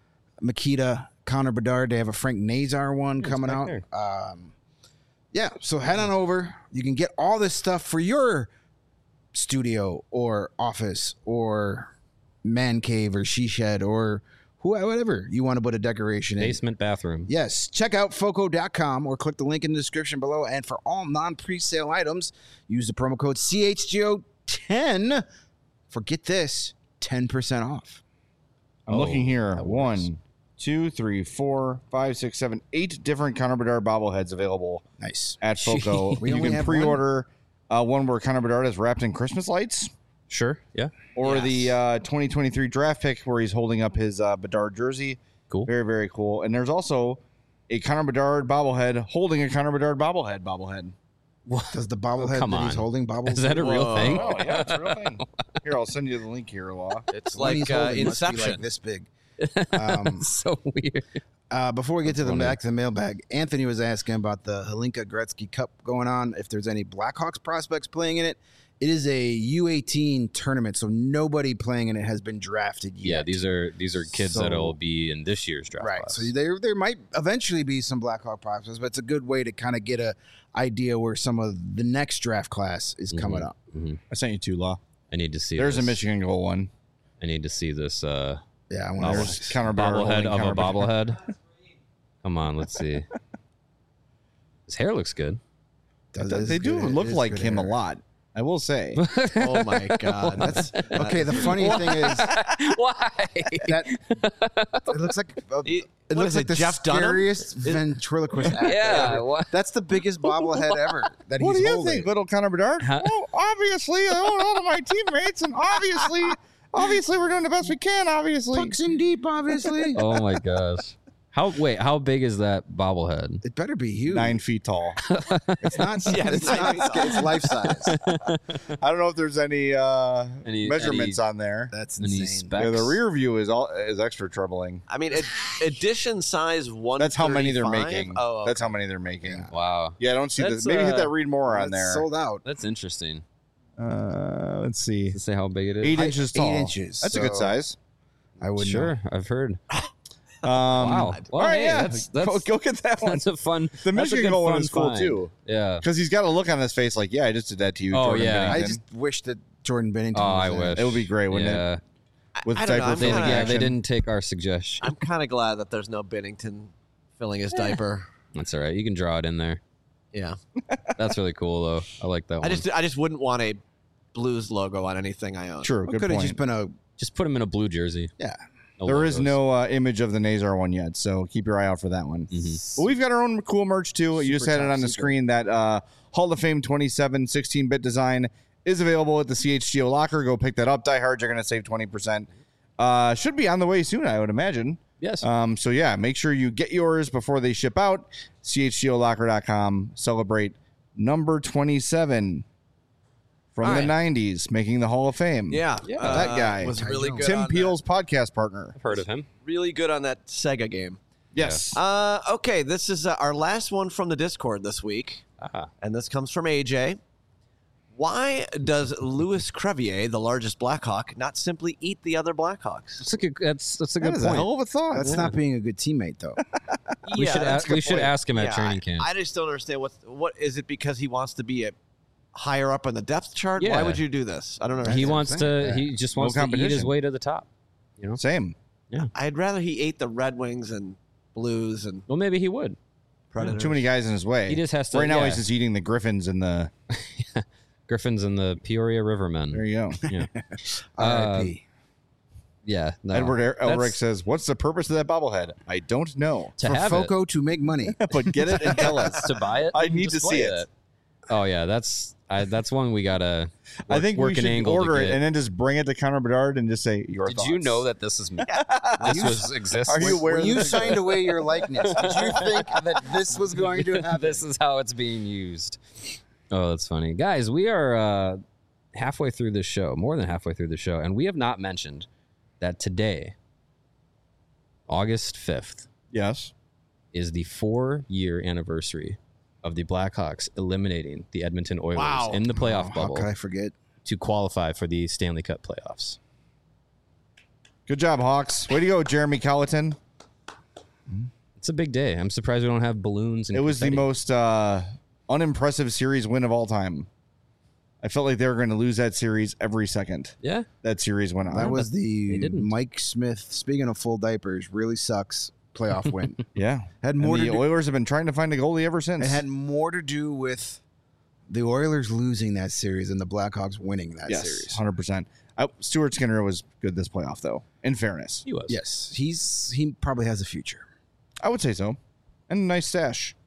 Makita Connor Bedard. They have a Frank Nazar one coming back out. there. Um, yeah, so head on over. You can get all this stuff for your studio or office or man cave or she shed or who- whatever you want to put a decoration in. Basement bathroom. Yes, check out foco dot com or click the link in the description below. And for all non-presale items, use the promo code C H G O ten for, get this, ten percent off. I'm Oh, looking here. that works. One, two, three, four, five, six, seven, eight different Connor Bedard bobbleheads available Nice. at FOCO. We You only can have one? pre-order uh, one where Connor Bedard is wrapped in Christmas lights, Sure. Yeah. or Yes. the uh, twenty twenty-three draft pick where he's holding up his uh, Bedard jersey. Cool. Very, very cool. And there's also a Connor Bedard bobblehead holding a Connor Bedard bobblehead bobblehead. Does the bobblehead come that he's on. holding bobble? Is that a real Whoa. thing? Oh, yeah, it's a real thing. Here, I'll send you the link here, Law. It's One he's like uh, holding must be Inception. like this big. Um, So weird. Uh, before we get to the funny. back to the mailbag, Anthony was asking about the Helinka Gretzky Cup going on. If there's any Blackhawks prospects playing in it, it is a U eighteen tournament, so nobody playing in it has been drafted yet. Yeah, these are these are kids So- that'll be in this year's draft right. class. So there there might eventually be some Blackhawk prospects, but it's a good way to kind of get a idea where some of the next draft class is coming up. Mhm. I sent you two, Law. I need to see. There's this. a Michigan goal one. I need to see this uh, Yeah, I want to. There's Connor Bedard bobblehead holding of a Connor Bedard. bobblehead. Come on, let's see. His hair looks good. They do look like him a lot, I will say. Oh my God. That's Okay, the funny thing is Why? that it looks like uh, It- it what looks is like it, the Jeff Dunham? scariest ventriloquist actor Yeah, ever. what? That's the biggest bobblehead ever that What do he's you holding. think, little Connor Bedard? Huh? Well, obviously, I own all of my teammates, and obviously, obviously, we're doing the best we can. Obviously, Pucks in deep, obviously. Oh my gosh. How wait? How big is that bobblehead? It better be huge. nine feet tall. It's not. Yeah, it's nine not. feet tall. It's life size. I don't know if there's any, uh, Any- measurements any- on there. That's Any insane. specs? Yeah, the rear view is all is extra troubling. I mean, ed- edition size one. That's how many they're making. Oh, okay. That's how many they're making. Wow, Yeah, I don't see That's, this. Maybe hit uh, that read more on It's there. sold out. that's interesting. Uh, let's see. To say how big it is. Eight Height- inches eight tall. inches, That's a good so- size. I would Sure, I've heard. Wow. Well, all right, hey, yeah. that's, that's, go, go get that one. that's a fun. The that's a Michigan good goal one fun was cool find. too. Yeah. Because he's got a look on his face like, yeah, I just did that to you. Oh, Jordan yeah. I Bennington. just wish that Jordan Bennington. Oh, was I there. wish. It would be great, wouldn't yeah. it? With I don't know, diaper I'm They, filling kinda- yeah, action. they didn't take our suggestion. I'm kind of glad that there's no Bennington filling his diaper. That's all right. You can draw it in there. Yeah. That's really cool, though. I like that one. I just I just wouldn't want a Blues logo on anything I own. True, Well, good could have point. just been a just put him in a blue jersey. yeah. No There is logos. no uh, image of the Nazar one yet, so keep your eye out for that one. Mhm. But we've got our own cool merch too. you just Super had it top on the secret. screen. That uh, Hall of Fame twenty-seven sixteen-bit design is available at the C H G O locker. Go pick that up. Die Hard, you're going to save twenty percent. Uh, should be on the way soon, I would imagine. Yes. Um, so yeah, make sure you get yours before they ship out. C H G O locker dot com. Celebrate number twenty-seven from All the right. nineties, making the Hall of Fame. Yeah. Yeah. uh, That guy. was really good. Tim on Peel's podcast partner. I've heard of him. that. Really good on that Sega game. Yes. Uh, okay, this is uh, our last one from the Discord this week, Ah. and this comes from A J. Why does Louis Crevier, the largest Blackhawk, not simply eat the other Blackhawks? That's a good. That's that's a That good is a point. hell of a thought. That's not being a good teammate, though. we should that's a- a good we should point. ask him at Yeah, training I- camp. I just don't understand what what is it because he wants to be a higher up on the depth chart? Why Yeah. would you do this? I don't understand. he what I'm wants saying. to. He just No wants to eat his competition. way to the top. You know. Same. I'd rather he ate the Red Wings and Blues and Well, maybe he would. Predators. Too many guys in his way. He just has to. right now, yeah. he's just eating the Griffins and the. Griffins and the Peoria Rivermen. There you go. Yeah. R I P Yeah. No, Edward Er- that's- Elric says, "What's the purpose of that bobblehead? I don't know, to For have Foco to make money. but get it and tell us." it to buy it. I and need to display see it. Oh yeah, that's I, that's one we gotta. Work, I think work we an should angle order to it get. and then just bring it to Connor Bedard and just say, "Your Did thoughts." you know that this is this was exists? Are you aware? When of you this? signed away your likeness, did you think that this was going to happen? This is how it's being used. Oh, that's funny, guys. We are uh, halfway through this show, more than halfway through the show, and we have not mentioned that today, August fifth, Yes. is the four-year anniversary of the Blackhawks eliminating the Edmonton Oilers Wow. in the playoff Oh, how bubble could I forget? to qualify for the Stanley Cup playoffs. Good job, Hawks. Way to go, Jeremy Colleton. It's a big day. I'm surprised we don't have balloons. And It was the confetti. most uh, unimpressive series win of all time. I felt like they were going to lose that series every second Yeah, that series went on. That was they the didn't. Mike Smith. Speaking of full diapers, really sucks playoff win. yeah. Had And more the to do, Oilers have been trying to find a goalie ever since. it had more to do with the Oilers losing that series and the Blackhawks winning that yes, series. one hundred percent. I, Stuart Skinner was good this playoff, though, in fairness. he was. Yes, he's he probably has a future. I would say so. And a nice stash.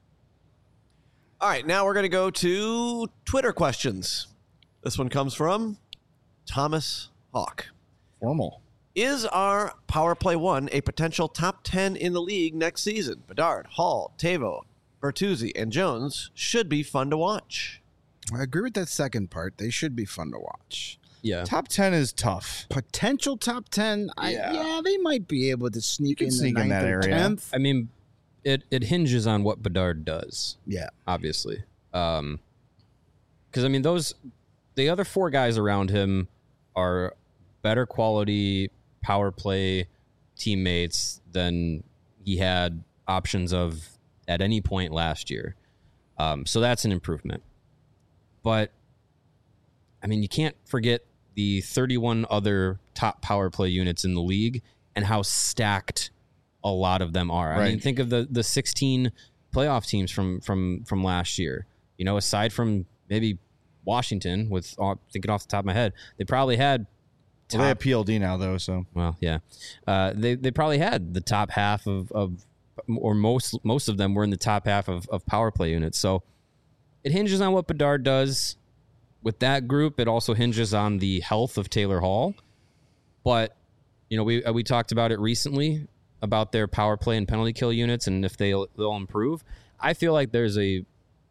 All right, now we're going to go to Twitter questions. This one comes from Thomas Hawk. Formal. Is our Power Play One a potential top ten in the league next season? Bedard, Hall, Tavo, Bertuzzi, and Jones should be fun to watch. I agree with that second part. They should be fun to watch. Yeah. Top ten is tough. Potential top ten. I, Yeah. yeah. they might be able to sneak can in sneak the in ninth that or area. tenth. I mean, it it hinges on what Bedard does. Yeah, Obviously, um, because I mean those the other four guys around him are better quality power play teammates than he had options of at any point last year. Um, so that's an improvement. But I mean, you can't forget the thirty-one other top power play units in the league and how stacked a lot of them are. I mean, Right. think of the the sixteen playoff teams from from from last year. You know, aside from maybe Washington, with uh, thinking off the top of my head, they probably had Well, they have P L D now, though, so. well, yeah, uh, they they probably had the top half of, of or most most of them were in the top half of, of power play units. So it hinges on what Bedard does with that group. It also hinges on the health of Taylor Hall. But you know, we we talked about it recently about their power play and penalty kill units and if they they'll improve. I feel like there's a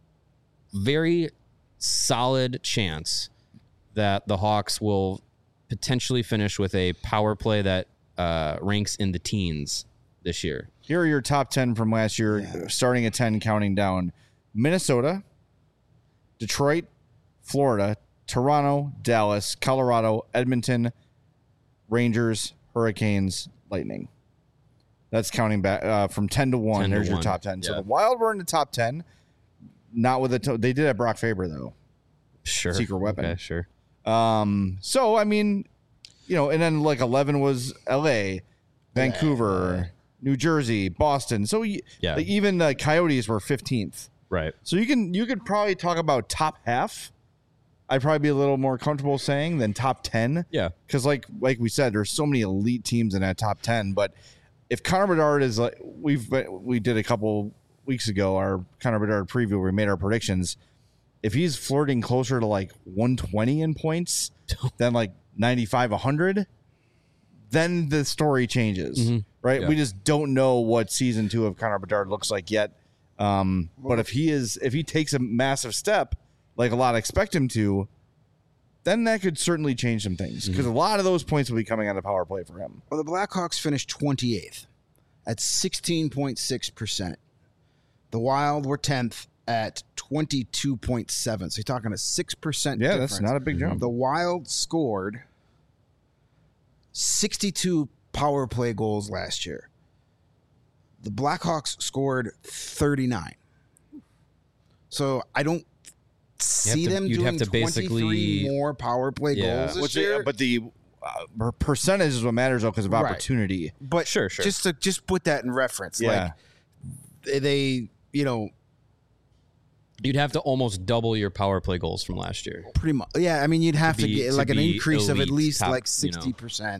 very solid chance that the Hawks will potentially finish with a power play that uh, ranks in the teens this year. Here are your top ten from last year, Yeah. starting at ten, counting down. Minnesota, Detroit, Florida, Toronto, Dallas, Colorado, Edmonton, Rangers, Hurricanes, Lightning. That's counting back uh, from ten to one. ten to There's your one. top ten. So Yeah. the Wild were in the top ten. Not with a to- they did have Brock Faber though. Sure. Secret weapon. Okay, sure. Um. So I mean, you know, and then like eleven was L A, Vancouver, New Jersey, Boston. So y- Yeah. like, even the Coyotes were fifteenth. Right. So you can you could probably talk about top half. I'd probably be a little more comfortable saying than top ten. Yeah. Because like like we said, there's so many elite teams in that top ten. But if Connor Bedard is like we've we did a couple weeks ago, our Connor Bedard preview, where we made our predictions. If he's flirting closer to like one twenty in points than like ninety-five, one hundred, then the story changes, Mhm. right? Yeah. We just don't know what season two of Connor Bedard looks like yet. Um, but if he is, if he takes a massive step, like a lot expect him to, then that could certainly change some things because a lot of those points will be coming on the power play for him. Well, the Blackhawks finished twenty-eighth at sixteen point six percent. The Wild were tenth at twenty-two point seven. So you're talking a six percent Yeah, difference. that's not a big jump. The Wild scored sixty-two power play goals last year. The Blackhawks scored thirty-nine. So I don't see to- them you'd doing have to twenty-three basically- more power play Yeah. goals this Which they- year. but the uh, percentage is what matters though because of Right. opportunity. But Sure, sure. just to just put that in reference, Yeah. like they, they, you know, You'd have to almost double your power play goals from last year. pretty much. Yeah, I mean, you'd have to, be- get to like an be increase of at elite, least top, like you know. sixty percent.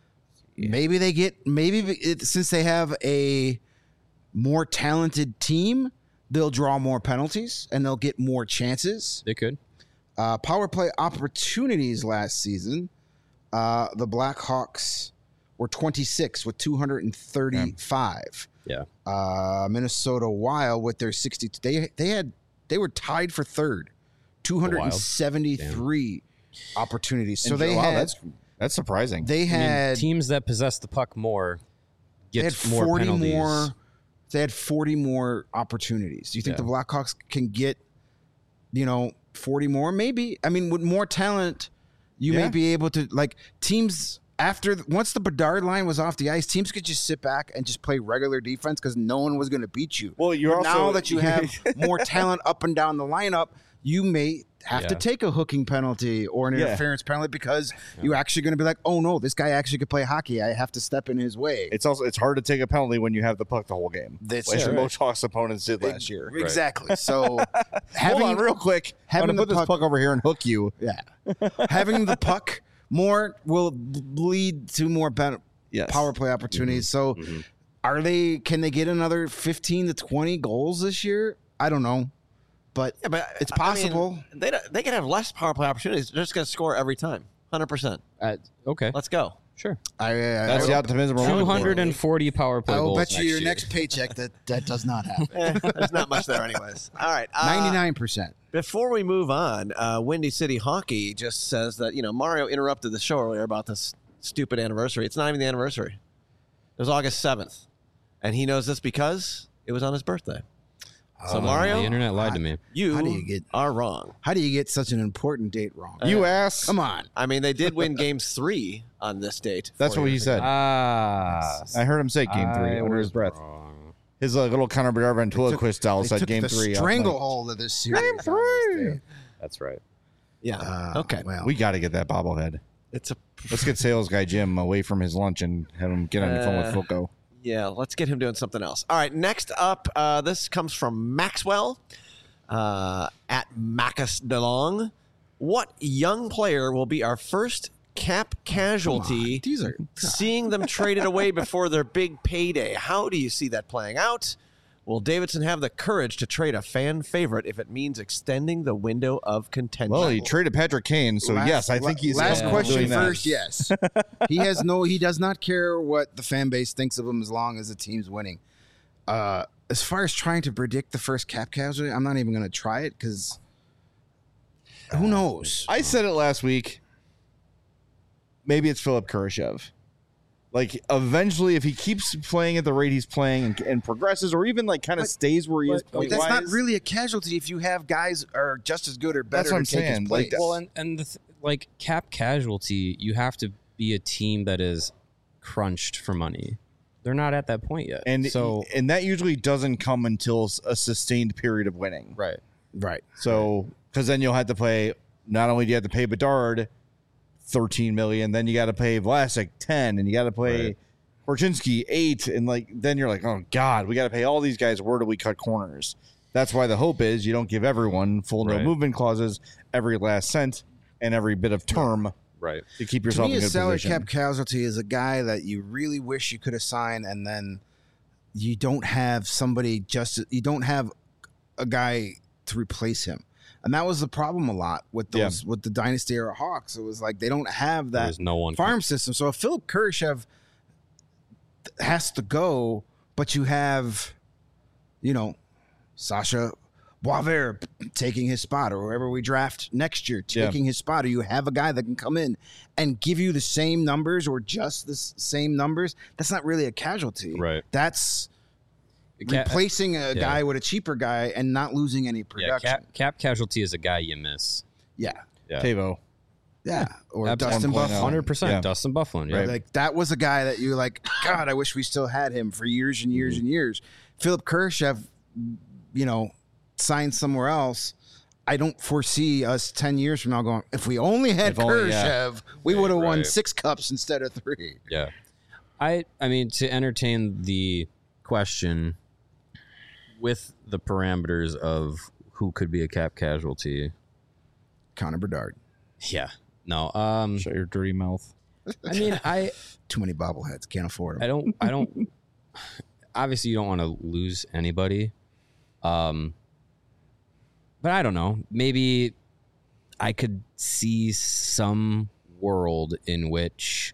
Maybe they get maybe it, since they have a more talented team, they'll draw more penalties and they'll get more chances. They could. Uh, power play opportunities last season, uh, the Blackhawks were twenty-six with two hundred thirty-five. Yeah. Uh, Minnesota Wild with their sixty, they they had they were tied for third, two hundred seventy-three opportunities. So And they wow, had that's that's surprising. they I mean, had teams that possess the puck more they get had more forty penalties. more. They had forty more opportunities. Do you think Yeah. the Blackhawks can get, you know, forty more? Maybe. I mean, with more talent, you Yeah. may be able to like teams after once the Bedard line was off the ice. Teams could just sit back and just play regular defense because no one was going to beat you. Well, you're But also now that you have more talent up and down the lineup, you may have to Yeah. take a hooking penalty or an Yeah. interference penalty because you're actually going to be like, oh no, this guy actually could play hockey. I have to step in his way. it's also it's hard to take a penalty when you have the puck the whole game. That's Like right. most Hawks opponents did last year. Exactly. So having Hold on, real quick. I'm having gonna the put this puck- puck over here and hook you. yeah, having the puck more will lead to more ben- Yes. power play opportunities. So Mhm. are they? Can they get another fifteen to twenty goals this year? I don't know, but Yeah, but it's I mean, possible. they don't- they can have less power play opportunities. They're just going to score every time, hundred percent. Uh, okay. Let's go. Sure. I, I, That's I, the optimism. we're looking two for. hundred forty power play I will goals bet you your year. next paycheck that that does not happen. Eh, there's not much there, anyways. All right, uh, Ninety-nine percent. Before we move on, uh, Windy City Hockey just says that, you know, Mario interrupted the show earlier about this stupid anniversary. It's not even the anniversary. It was August seventh. And he knows this because it was on his birthday. So, Uh, Mario, the internet lied to me. you, How do you get- are wrong. How do you get such an important date wrong? You ass. Come on. I mean, they did win games three on this date. That's four what he years ago. said. Ah, I heard him say game three I under his was breath. wrong. His uh, little Connor Bedard ventriloquist style They said took game the three. stranglehold of this series. Game on this three. day. That's right. Yeah. Uh, okay. Well, We got to get that bobblehead. It's a Let's get sales guy Jim away from his lunch and have him get on the phone with Uh, Filco. Yeah, let's get him doing something else. All right, next up, uh, this comes from Maxwell uh, at Macus DeLong. What young player will be our first cap casualty, These are seeing them traded away before their big payday? How do you see that playing out? Will Davidson have the courage to trade a fan favorite if it means extending the window of contention? Well, he traded Patrick Kane, so Last- yes, I think he's last capable of question doing that. first. Yes, he has no. He does not care what the fan base thinks of him as long as the team's winning. Uh, as far as trying to predict the first cap casualty, I'm not even going to try it because who knows? I said it last week. Maybe it's Philip Kurashev. Like, eventually, if he keeps playing at the rate he's playing and, and progresses, or even like kind of But- stays where he is but point That's not wise, really a casualty if you have guys are just as good or better. That's what I'm to take his saying. place. Like, Well, and and the th- like cap casualty, you have to be a team that is crunched for money. they're not at that point yet. And so and that usually doesn't come until a sustained period of winning. right. Right. So because then you'll have to pay. Not only do you have to pay Bedard thirteen million, then you got to pay Vlasic ten, and you got to pay Right. Korchinski eight, and like then you're like, oh God, we got to pay all these guys. Where do we cut corners? That's why the hope is you don't give everyone full no Right. movement clauses, every last cent, and every bit of term Right. to keep To yourself me, in a good salary position. cap casualty is a guy that you really wish you could have signed, and then you don't have somebody just you don't have a guy to replace him. And that was the problem a lot with Yeah. those with the dynasty era Hawks. It was like they don't have that There's no one. farm system. So if Philip Kurashev has to go, but you have, you know, Sasha Boisvert taking his spot, or whoever we draft next year Yeah. taking his spot, or you have a guy that can come in and give you the same numbers or just the s- same numbers, that's not really a casualty. Right. That's Ca- replacing a yeah. guy with a cheaper guy and not losing any Yeah, production. cap, cap casualty is a guy you miss. Yeah. Yeah. Tavo. Yeah. Or Ab- Dustin one point oh. Buffalo. one hundred percent Yeah. Dustin Bufflin. Yeah. Right. Like that was a guy that you like, God, I wish we still had him for years and years Mm-hmm. and years. Philip Kurashev, you know, signed somewhere else. I don't foresee us ten years from now going, if we only had If only, yeah. Kurashev, we would have won right. six cups instead of three. Yeah. I I mean, to entertain the question with the parameters of who could be a cap casualty. Connor Bedard. Yeah. No. Um Shut your dirty mouth. I mean, I Too many bobbleheads. Can't afford them. I don't I don't obviously you don't want to lose anybody. Um but I don't know. Maybe I could see some world in which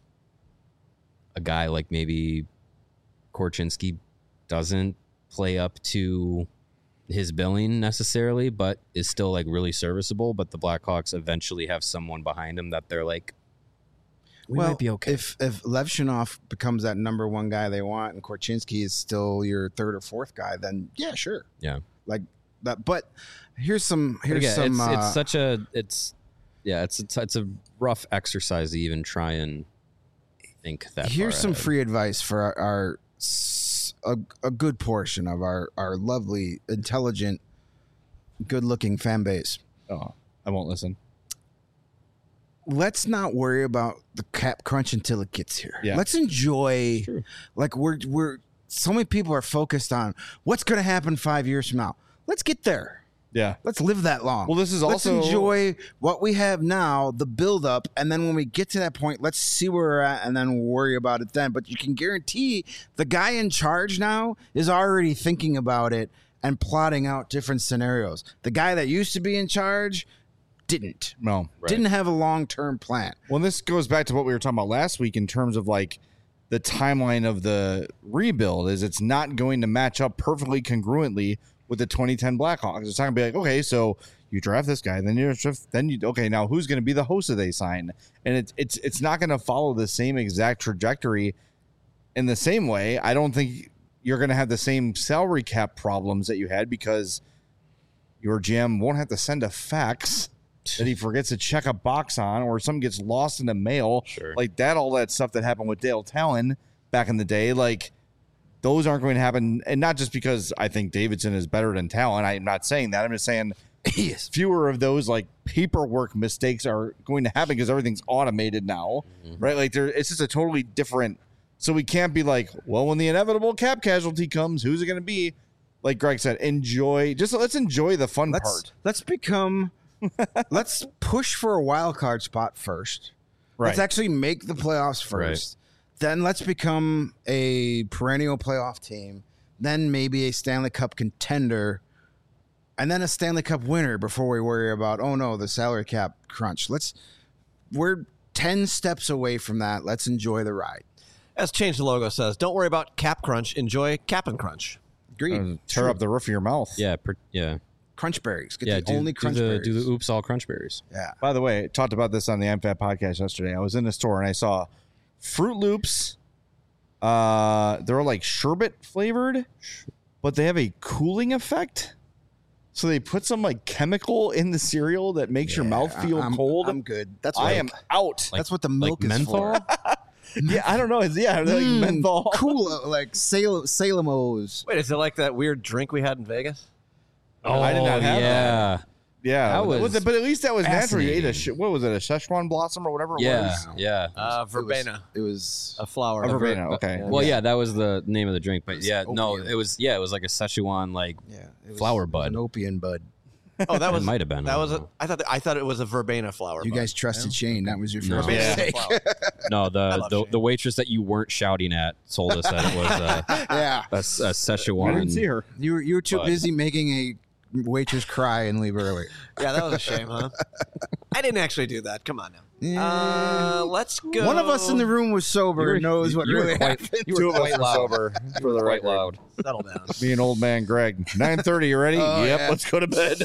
a guy like maybe Korchinski doesn't play up to his billing necessarily, but is still like really serviceable. But the Blackhawks eventually have someone behind him that they're like, we well, might be okay. If if Levshunov becomes that number one guy they want, and Korchinski is still your third or fourth guy, then yeah, sure, yeah. like that. But here's some But here's again, some. it's, uh, it's such a it's yeah it's, it's it's a rough exercise to even try and think that. Here's far some ahead. free advice for our, our s- a, a good portion of our our lovely, intelligent, good-looking fan base. Oh, I won't listen. Let's not worry about the cap crunch until it gets here. Yeah. Let's enjoy. True. Like we're we're so many people are focused on what's going to happen five years from now. Let's get there. Yeah. Let's live that long. Well, this is let's also enjoy what we have now, the build up, and then when we get to that point, let's see where we're at, and then worry about it then. But you can guarantee the guy in charge now is already thinking about it and plotting out different scenarios. The guy that used to be in charge didn't. no. Right. Didn't have a long term plan. Well, this goes back to what we were talking about last week in terms of like the timeline of the rebuild is it's not going to match up perfectly congruently with the twenty ten Blackhawks. It's not going to be like, okay, so you draft this guy, then you draft, then you okay, now who's going to be the host that they sign? And it's it's it's not going to follow the same exact trajectory in the same way. I don't think you're going to have the same salary cap problems that you had because your G M won't have to send a fax that he forgets to check a box on, or something gets lost in the mail, Sure. like that. All that stuff that happened with Dale Talon back in the day, like those aren't going to happen. And not just because I think Davidson is better than Talon. I'm not saying that. I'm just saying Yes. fewer of those like paperwork mistakes are going to happen because everything's automated now, right? Like there, it's just a totally different. So we can't be like, well, when the inevitable cap casualty comes, who's it going to be? Like Greg said, enjoy. Just let's enjoy the fun Let's part. let's become let's push for a wild card spot first. Right. Let's actually make the playoffs first. Then let's become a perennial playoff team. Then maybe a Stanley Cup contender. And then a Stanley Cup winner before we worry about, oh no, the salary cap crunch. Let's we're ten steps away from that. Let's enjoy the ride. As Change the Logo says, don't worry about cap crunch. Enjoy cap and crunch. Agreed. Uh, tear up the roof of your mouth. Yeah, per, yeah, Crunch berries. Get yeah. the Do, only do crunch the berries. do the oops all crunch berries. yeah. By the way, I talked about this on the I'm Fat podcast yesterday. I was in the store and I saw Fruit Loops. Uh, they're like sherbet flavored, but they have a cooling effect. So they put some like chemical in the cereal that makes your Yeah, mouth feel I'm, cold. I'm good. That's I what am out. Like- that's what the Like milk is menthol. for. Yeah, I don't know. It's, yeah, they're like Mm, menthol. cool, like Salem, Salem-O's. Wait, is it like that weird drink we had in Vegas? Oh, I did not have yeah. Yeah, That but- was but at least that was natural. You ate a fascinating. sh- what was it? A Szechuan blossom or whatever it Yeah, was. yeah. Uh, verbena. It was. A flower. A A ver- verbena. Okay. Well, yeah, that was the name of the drink, but was yeah, no, opium. it was yeah, it was like a Szechuan like Yeah, it was, Flower it was bud. an opium bud. Oh, that was it might have been. That I was. don't A, know. I thought. I thought it was a verbena flower. You bud. guys trusted Shane. That was your No. first Yeah. mistake. Flower. No, I the love the, Shane. the waitress that you weren't shouting at told us that it was a, Yeah, a, a Szechuan. I didn't see her. you were you were too But- busy making a waitress cry and leave early. Yeah, that was a shame, huh? I didn't actually do that. Come on now. Yeah. Uh, let's go. One of us in the room was sober You were- and knows what you were really quite- happened. you were Two of us quite were loud. sober for the Quite record. loud. Settle down. Me and old man Greg. nine thirty, you ready? Oh, yep, yeah. let's go to bed.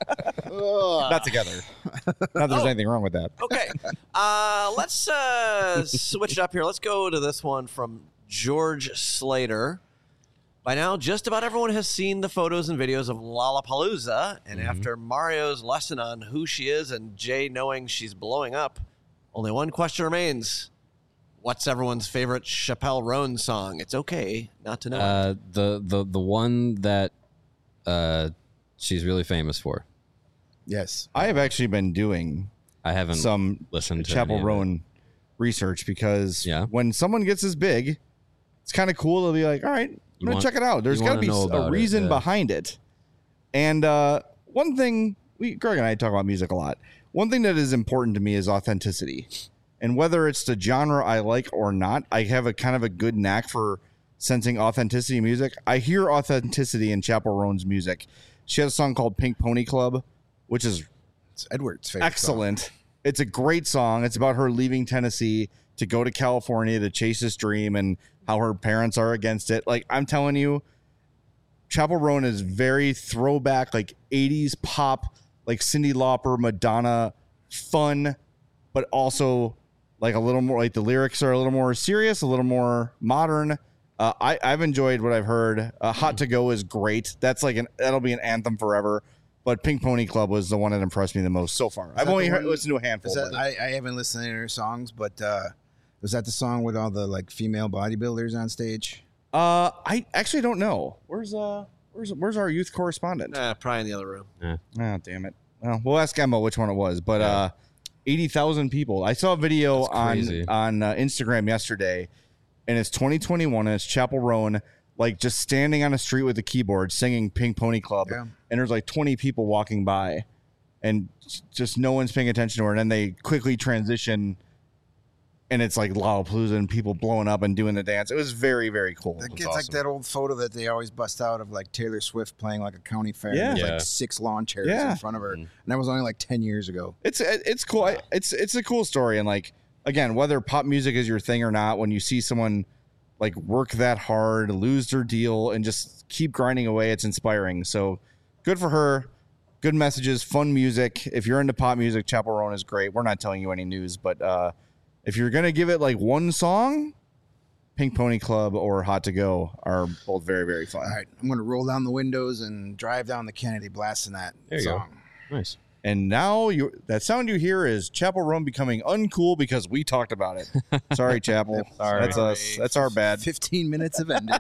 Ugh. Not together. Not that there's Oh. anything wrong with that. Okay. Uh, let's uh, switch it up here. Let's go to this one from George Slater. By now, just about everyone has seen the photos and videos of Lollapalooza. And after Mario's lesson on who she is and Jay knowing she's blowing up, only one question remains. What's everyone's favorite Chappelle Roan song? It's okay not to know. Uh, the the the one that uh, she's really famous for. Yes. I have actually been doing I haven't some listened to Chapel any of it. Roan research because Yeah. when someone gets this big, it's kind of cool to be like, all right, I'm You going want- to check it out. There's you got to wanna be know s- about a it, reason yeah. behind it. And uh, one thing, we Greg and I talk about music a lot. One thing that is important to me is authenticity. And whether it's the genre I like or not, I have a kind of a good knack for sensing authenticity in music. I hear authenticity in Chapel Roan's music. She has a song called Pink Pony Club, which is It's Edward's favorite. excellent. It's a great song. It's about her leaving Tennessee to go to California to chase this dream and how her parents are against it. Like, I'm telling you, Chapel Roan is very throwback, like eighties pop, like Cyndi Lauper, Madonna, fun, but also like a little more, like the lyrics are a little more serious, a little more modern. Uh, I, I've enjoyed what I've heard. Uh, Hot to Go is great. That's like an, that'll be an anthem forever. But Pink Pony Club was the one that impressed me the most so far. I've that only the heard, one- listened to a handful. Is that, but- I, I haven't listened to her songs, but uh, was that the song with all the like female bodybuilders on stage? Uh, I actually don't know. Where's uh, where's where's our youth correspondent? Uh, probably in the other room. Oh, damn it. Well, we'll ask Emma which one it was. But Yeah. uh, eighty thousand people. I saw a video That's on crazy. on uh, Instagram yesterday, and it's twenty twenty-one, and it's Chapel Roan, like just standing on a street with a keyboard singing Pink Pony Club, Yeah. and there's like twenty people walking by, and just no one's paying attention to her. And then they quickly transition, and it's like Lollapalooza and people blowing up and doing the dance. It was very, very cool. That It was gets like awesome. that old photo that they always bust out of like Taylor Swift playing like a county fair. Yeah. There's Yeah. like six lawn chairs Yeah. in front of her, Mhm. and that was only like ten years ago. It's it's cool. I- It's it's a cool story, and like again, whether pop music is your thing or not, when you see someone like work that hard, lose their deal, and just keep grinding away, it's inspiring. So good for her. Good messages, fun music. If you're into pop music, Chapel Roan is great. We're not telling you any news, but uh, if you're gonna give it like one song, Pink Pony Club or Hot to Go are both very very fun. All right, I'm gonna roll down the windows and drive down the Kennedy, blasting that There you go. song. Nice. And now you that sound you hear is Chapel Roan becoming uncool because we talked about it. Sorry, Chapel. Sorry. That's us. That's our bad. Fifteen minutes have ended.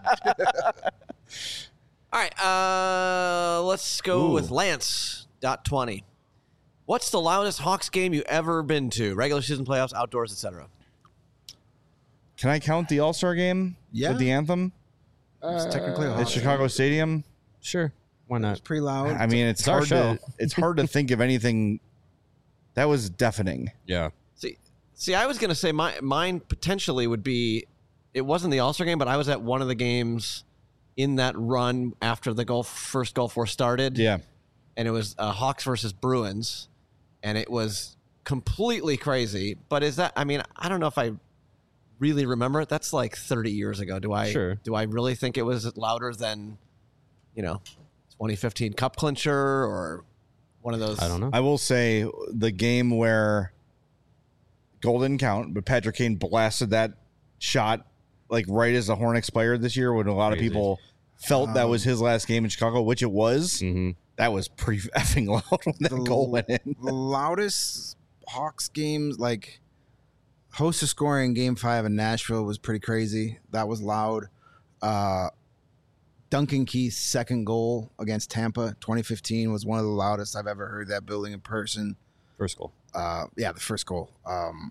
All right, uh, let's go Ooh. with Lance. Dot twenty. What's the loudest Hawks game you ever been to? Regular season, playoffs, outdoors, et cetera. Can I count the All Star game Yeah. with the anthem It's technically a at Hawks Chicago Stadium? Sure. Why not? It's pretty loud. I mean, it's, It's our hard show. to it's hard to think of anything that was deafening. Yeah. See, see, I was gonna say my mine potentially would be. It wasn't the All Star game, but I was at one of the games in that run after the Gulf first Gulf War started. Yeah, and it was uh, Hawks versus Bruins, and it was completely crazy. But is that? I mean, I don't know if I really remember it. That's like thirty years ago. Do I? Sure. Do I really think it was louder than, you know, twenty fifteen Cup clincher or one of those? I don't know. I will say the game where goal didn't count, but Patrick Kane blasted that shot like right as the horn expired this year, when a lot of Crazy. people felt that was his last game in Chicago, which it was. Mm-hmm. That was pretty effing loud when that The goal l- went in. the loudest Hawks games, like Hosta scoring game five in Nashville was pretty crazy. That was loud. Uh, Duncan Keith's second goal against Tampa, twenty fifteen, was one of the loudest I've ever heard that building in person. First goal. Uh, yeah, the first goal. Um,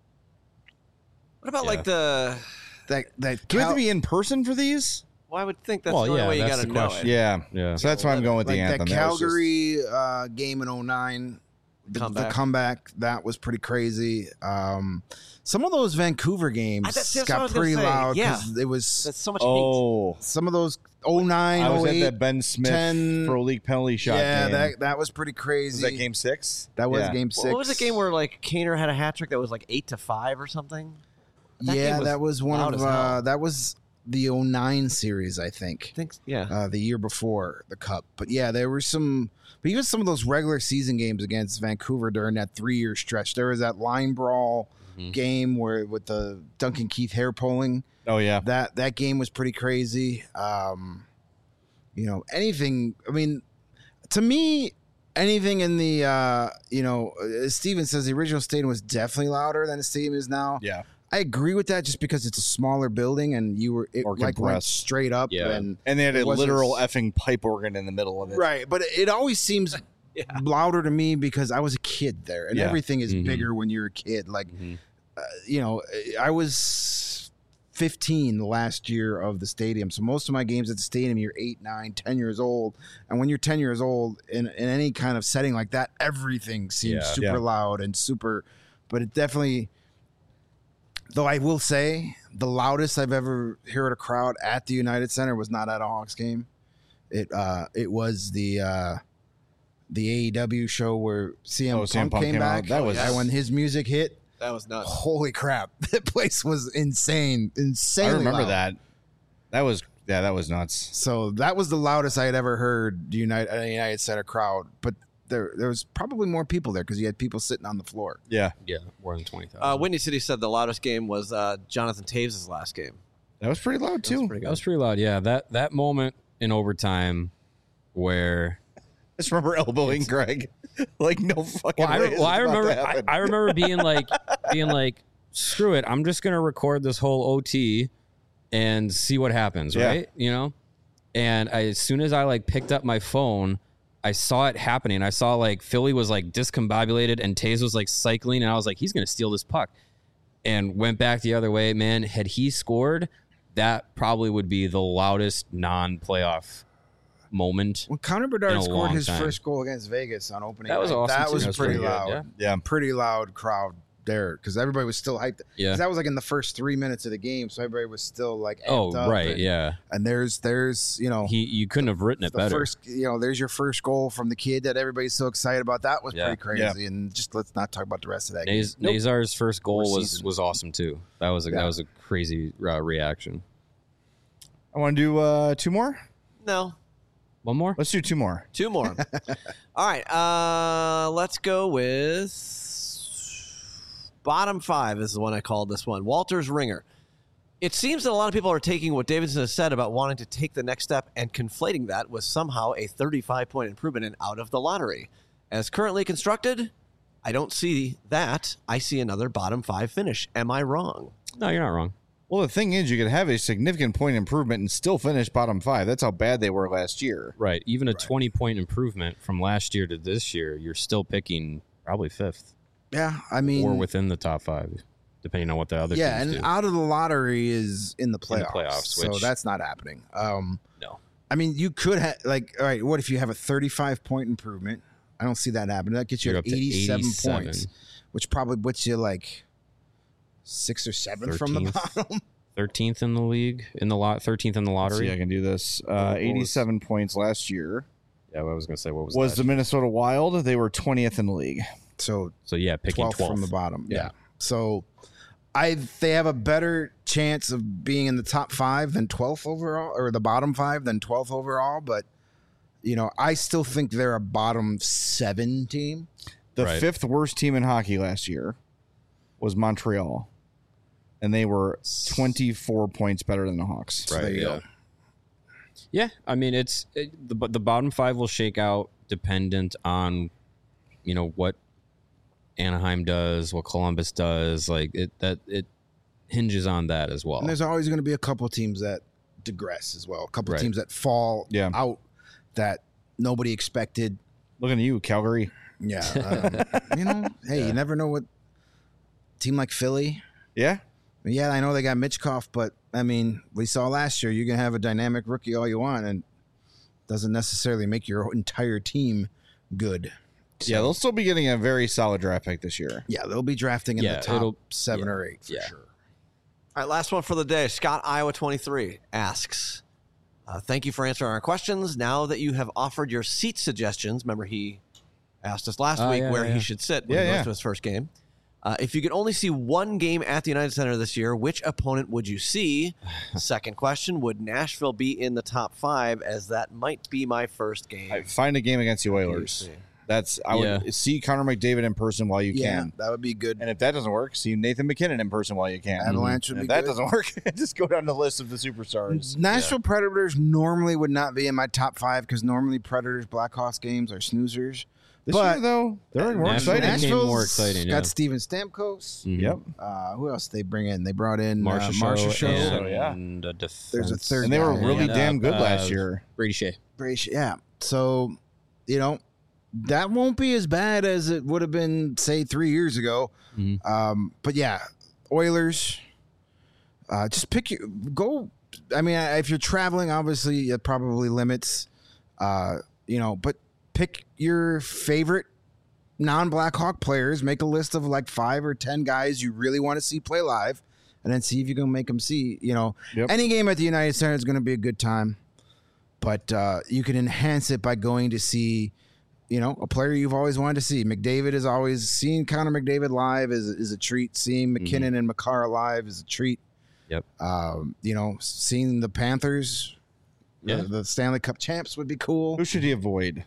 What about Yeah. like the? that that Do we have Cal- to be in person for these? Well, I would think that's Well, the only yeah, way you that's got to the know question. it. Yeah. Yeah. So that's why I'm going with the like anthem. that That was just- Calgary uh, game in oh nine. The Comeback. the comeback, that was pretty crazy. Um, some of those Vancouver games I- that's- that's what I got was gonna pretty say. loud Yeah. because it was That's so much hate. Oh, some of those oh nine, I was oh at eight. that Ben Smith ten pro league penalty shot yeah, game. that that was pretty crazy. was that game six? That was Yeah. game six. What was the game where like Kaner had a hat trick that was like eight to five or something? That game yeah, was that was one loud of as hell. uh, that was the oh nine series, I think. I think yeah. Uh, the year before the cup. But yeah, there were some, but even some of those regular season games against Vancouver during that three year stretch. There was that line brawl Mhm. game where with the Duncan Keith hair pulling. Oh yeah. That that game was pretty crazy. Um, you know, anything. I mean, to me, anything in the uh, you know, as Steven says, the original stadium was definitely louder than the stadium is now. Yeah. I agree with that, just because it's a smaller building and you were it Or like went compressed. straight up Yeah. and And they had It a wasn't literal s- effing pipe organ in the middle of it. right. But it always seems Yeah. louder to me because I was a kid there, and Yeah. everything is Mhm. bigger when you're a kid. Like, Mhm. uh, you know, I was fifteen the last year of the stadium, so most of my games at the stadium, you're eight, nine, ten years old, and when you're ten years old in in any kind of setting like that, everything seems Yeah. super Yeah. loud and super. But it definitely. Though I will say, the loudest I've ever heard a crowd at the United Center was not at a Hawks game. It uh, it was the uh, the A E W show where C M, Oh, Punk, C M Punk came came out. back. That was- and when his music hit. That was nuts. Holy crap! That place was insane, insane. I remember that. That was yeah, that was nuts. So that was the loudest I had ever heard the United a United Center crowd. But there there was probably more people there because you had people sitting on the floor. Yeah. Yeah, more than twenty thousand. Uh, Windy City said the loudest game was uh, Jonathan Taves' last game. That was pretty loud That was too. pretty That good. was pretty loud. Yeah, that that moment in overtime where I just remember elbowing Greg. Like no fucking well, I, way re- is well, I this about to remember I, happen. I remember being like being like screw it, I'm just gonna record this whole O T and see what happens, Yeah. right? You know, and I, as soon as I like picked up my phone, I saw it happening. I saw like Philly was like discombobulated and Taze was like cycling, and I was like, he's gonna steal this puck, and went back the other way. Man, had he scored, that probably would be the loudest non-playoff moment. When Connor In Bedard a scored long his time. first goal against Vegas on opening That was night, awesome, that too. was That was pretty pretty good, loud. yeah. Yeah. Pretty loud crowd there because everybody was still hyped. 'Cause Yeah. that was like in the first three minutes of the game, so everybody was still like Oh, amped up right. and, Yeah. And there's there's you know He you couldn't have written it the better. first you know there's your first goal from the kid that everybody's so excited about. That was Yeah. pretty crazy. And just let's not talk about the rest of that Naz- game. Nope. Nazar's first goal Poor was season. was awesome too. That was a Yeah. that was a crazy uh, reaction. I want to do uh, two more. No, One more. Let's do two more. two more. All right, uh, let's go with bottom five is the one I called this one. Walter's Ringer. It seems that a lot of people are taking what Davidson has said about wanting to take the next step and conflating that with somehow a thirty-five point improvement and out of the lottery. As currently constructed, I don't see that. I see another bottom five finish. Am I wrong? No, you're not wrong. Well, the thing is, you could have a significant point improvement and still finish bottom five. That's how bad they were last year. Right. Even a twenty point improvement from last year to this year, you're still picking probably fifth Yeah, I mean, or within the top five, depending on what the other yeah, teams and do. out of the lottery is in the In the playoffs, playoffs, so which- that's not happening. Um, No. I mean, you could have like, all right, what if you have a thirty-five point improvement? I don't see that happening. That gets you You're at up to eighty-seven, eighty-seven. points, which probably puts you like six or seven from the thirteenth. bottom. thirteenth in the league in the lot, thirteenth in the Let's see, lottery. I can do this. Uh, was- eighty-seven points last year Yeah, I was gonna say what was, was that? the Minnesota Wild. They were twentieth in the league. So so yeah, picking twelfth twelfth from the bottom. Yeah. Yeah. So I they have a better chance of being in the top five than twelfth overall, or the bottom five than twelfth overall. But you know, I still think they're a bottom seven team. The Right. fifth worst team in hockey last year was Montreal, and they were twenty-four points better than the Hawks. So Right, there you yeah. go. Yeah, I mean it's it, the the bottom five will shake out dependent on you know what Anaheim does, what Columbus does. Like it that it hinges on that as well. And there's always going to be a couple teams that digress as well. A couple Right. teams that fall Yeah. out that nobody expected. Looking at you, Calgary. Yeah. Um, you know, hey, Yeah. you never know what team like Philly. Yeah. Yeah, I know they got Mitchkov, but I mean, we saw last year you can have a dynamic rookie all you want, and doesn't necessarily make your entire team good. Yeah, they'll still be getting a very solid draft pick this year. Yeah, they'll be drafting in Yeah, the top it'll- seven yeah, or eight for yeah. sure. All right, last one for the day. Scott, Iowa twenty-three, asks, uh, thank you for answering our questions. Now that you have offered your seat suggestions, remember he asked us last Oh, week yeah, where yeah. he should sit when Yeah, he goes yeah. to his first game. Uh, if you could only see one game at the United Center this year, which opponent would you see? Second question, would Nashville be in the top five, as that might be my first game? I find a game against the Oilers. That's I would Yeah. see Connor McDavid in person while you Yeah, can. that would be good. And if that doesn't work, see Nathan McKinnon in person while you can. Avalanche And would if be that good. doesn't work, just go down the list of the superstars. Nashville Predators normally would not be in my top five because normally Predators Blackhawks games are snoozers. This But- year, though, they're more Nashville- exciting. Nashville- Nashville's more exciting, yeah. got Steven Stamkos. Mhm. Yep. Uh, who else did they bring in? They brought in uh, Marcia Marcia Show Show. and yeah. a defense. There's a third And they were guy. really And, damn good uh, last uh, year. Brady Shea. Brace- Yeah. So, you know, that won't be as bad as it would have been, say, three years ago. Mhm. Um, but yeah, Oilers. Uh, just pick your go. I mean, if you're traveling, obviously it probably limits. Uh, you know, but pick your favorite non-Blackhawk players. Make a list of like five or ten guys you really want to see play live, and then see if you can make them see. You know, Yep. any game at the United Center is going to be a good time, but uh, you can enhance it by going to see, you know, a player you've always wanted to see. McDavid is always seeing Connor McDavid live is is a treat. Seeing McKinnon and Makar live is a treat. Yep. Um, you know, seeing the Panthers, Yeah. the, the Stanley Cup champs would be cool. Who should he avoid?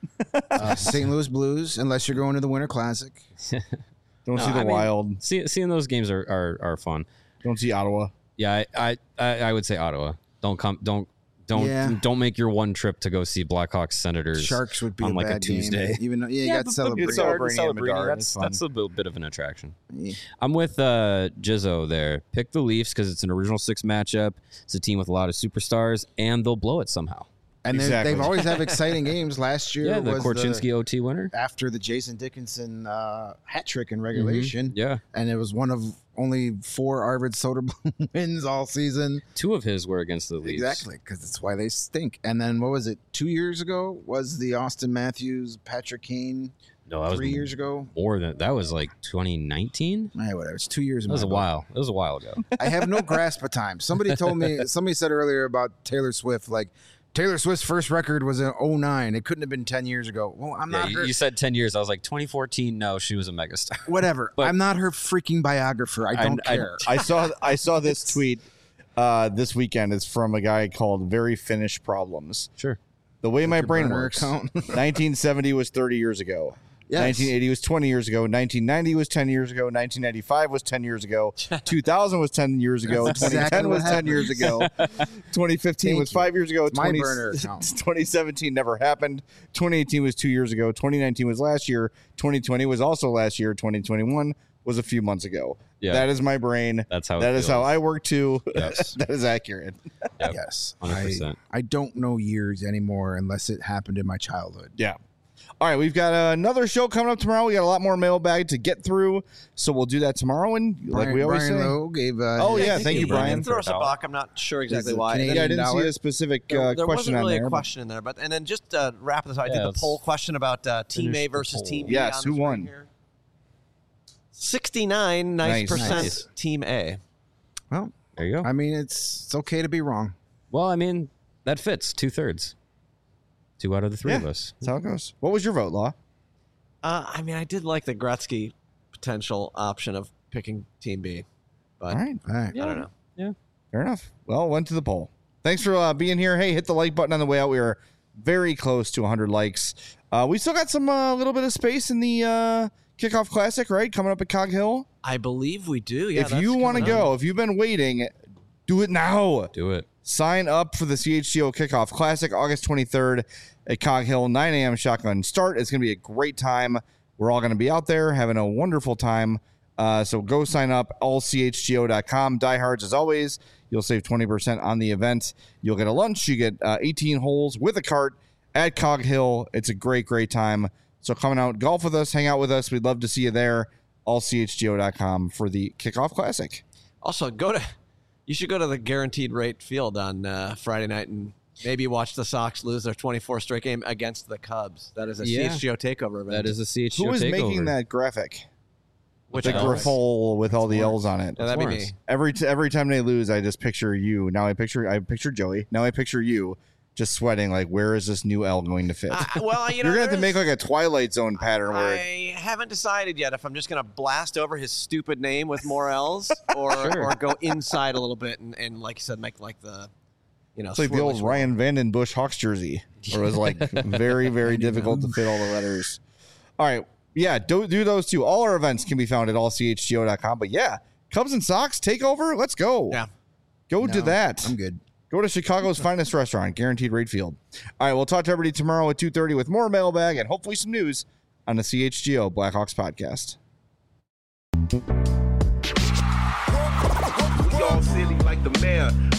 Uh, Saint Louis Blues, unless you're going to the Winter Classic. Don't No, see the I mean- Wild. See, seeing those games are, are, are fun. Don't see Ottawa. Yeah, I, I, I I would say Ottawa. Don't come. Don't don't Yeah. don't make your one trip to go see Blackhawks Senators. Sharks would be on a like a bad game, Tuesday. even though yeah, you Yeah, got but- but celebrating. it's celebrating in Celebrating, Bedard. That's It's fun. that's a little bit of an attraction. Yeah. I'm with uh, Jizzo there. Pick the Leafs because it's an original six matchup. It's a team with a lot of superstars, and they'll blow it somehow. And they're- Exactly. they've always have exciting games. Last year Yeah, the was Korchinski O T winner. after the Jason Dickinson uh, hat trick in regulation, Yeah, and it was one of only four Arvid Soderblom wins all season. two of his were against the Leafs. Exactly, because that's why they stink. And then what was it? Two years ago was the Austin Matthews, Patrick Kane. No, that was Three years ago. more than that. Was like twenty nineteen. Hey, whatever. It's two years. in That was my a book. while. It was a while ago. I have no grasp of time. Somebody told me. Somebody said earlier about Taylor Swift. Like Taylor Swift's first record was in oh nine. It couldn't have been ten years ago. Well, I'm Yeah, not you, her. you said ten years. I was like twenty fourteen. No, she was a megastar. Whatever. But- I'm not her freaking biographer. I don't I- care. I saw I saw this tweet uh, this weekend. It's from a guy called Very Finnish Problems. Sure. The way my your brain burner works. account? nineteen seventy was thirty years ago. Yes. nineteen eighty was twenty years ago. nineteen ninety was ten years ago. nineteen ninety-five was ten years ago. two thousand was ten years ago. That's twenty ten exactly was what ten years ago. twenty fifteen Thank was you. five years ago. My twenty burner account. twenty seventeen never happened. twenty eighteen was two years ago. twenty nineteen was last year. twenty twenty was also last year. twenty twenty-one was a few months ago. Yeah. That is my brain. That's how. That it is how feels. I work too. Yes. That is accurate. Yep. Yes. one hundred I, percent. I don't know years anymore unless it happened in my childhood. Yeah. All right, we've got another show coming up tomorrow. We got a lot more mailbag to get through, so we'll do that tomorrow. And like Brian, we always Brian say, Lowe gave. Uh, Oh, his- yeah, thank you, Brian. Throw us a for a buck. I'm not sure exactly Is it why. Canadian yeah, I didn't dollar? see a specific There, uh, there question wasn't on really there. a but- question in there, but and then just uh, wrap this. I did Yeah, the let's poll question about uh, Team finish A the versus poll. Team B. Yes, on who the screen won? here. Sixty-nine nice Nice. percent Nice. Team A. Well, There you go. I mean, it's it's okay to be wrong. Well, I mean, that fits. Two thirds. Two out of the three Yeah. of us. That's how it goes. What was your vote, Law? Uh, I mean, I did like the Gretzky potential option of picking Team B, but All right, All right. I don't know. fair enough. Well, went to the poll. Thanks for uh, being here. Hey, hit the like button on the way out. We are very close to one hundred likes. Uh, we still got some a uh, little bit of space in the uh, Kickoff Classic, right? Coming up at Cog Hill. I believe we do. Yeah. if that's you want to coming up. go, if you've been waiting, do it now. Do it. Sign up for the C H C O Kickoff Classic, August twenty-third at Cog Hill, nine a.m. shotgun start. It's going to be a great time. We're all going to be out there having a wonderful time. Uh, so go sign up, all c h g o dot com. Diehards, as always, you'll save twenty percent on the event. You'll get a lunch. You get uh, eighteen holes with a cart at Cog Hill. It's a great, great time. So coming out, golf with us, hang out with us. We'd love to see you there. all c h g o dot com for the Kickoff Classic. Also, go to you should go to the Guaranteed Rate Field on uh, Friday night and maybe watch the Sox lose their twenty-fourth straight game against the Cubs. That is a Yeah. C H G O takeover event. That is a C H G O Who is takeover. making that graphic? Which The L's? griffle with all the L's on it. Yeah, that'd be me. Lawrence. Every t- every time they lose, I just picture you. Now I picture I picture Joey. Now I picture you just sweating. Like, where is this new L going to fit? Uh, well, you know, You're gonna have to there's- make like a Twilight Zone pattern where it, I haven't decided yet if I'm just going to blast over his stupid name with more L's or, Sure. or go inside a little bit and, and, like you said, make like the, you know, it's like the swirly old swirl. Ryan Vandenbush Hawks jersey, where it was like very very difficult to fit all the letters. All right, yeah, do do those two. All our events can be found at all c h g o dot com. But yeah, Cubs and Sox takeover. Let's go. Yeah. Go to No, that. I'm good. Go to Chicago's finest restaurant, Guaranteed Rate Field. All right, we'll talk to everybody tomorrow at two thirty with more mailbag and hopefully some news on the C H G O Blackhawks podcast. We all silly like the mayor.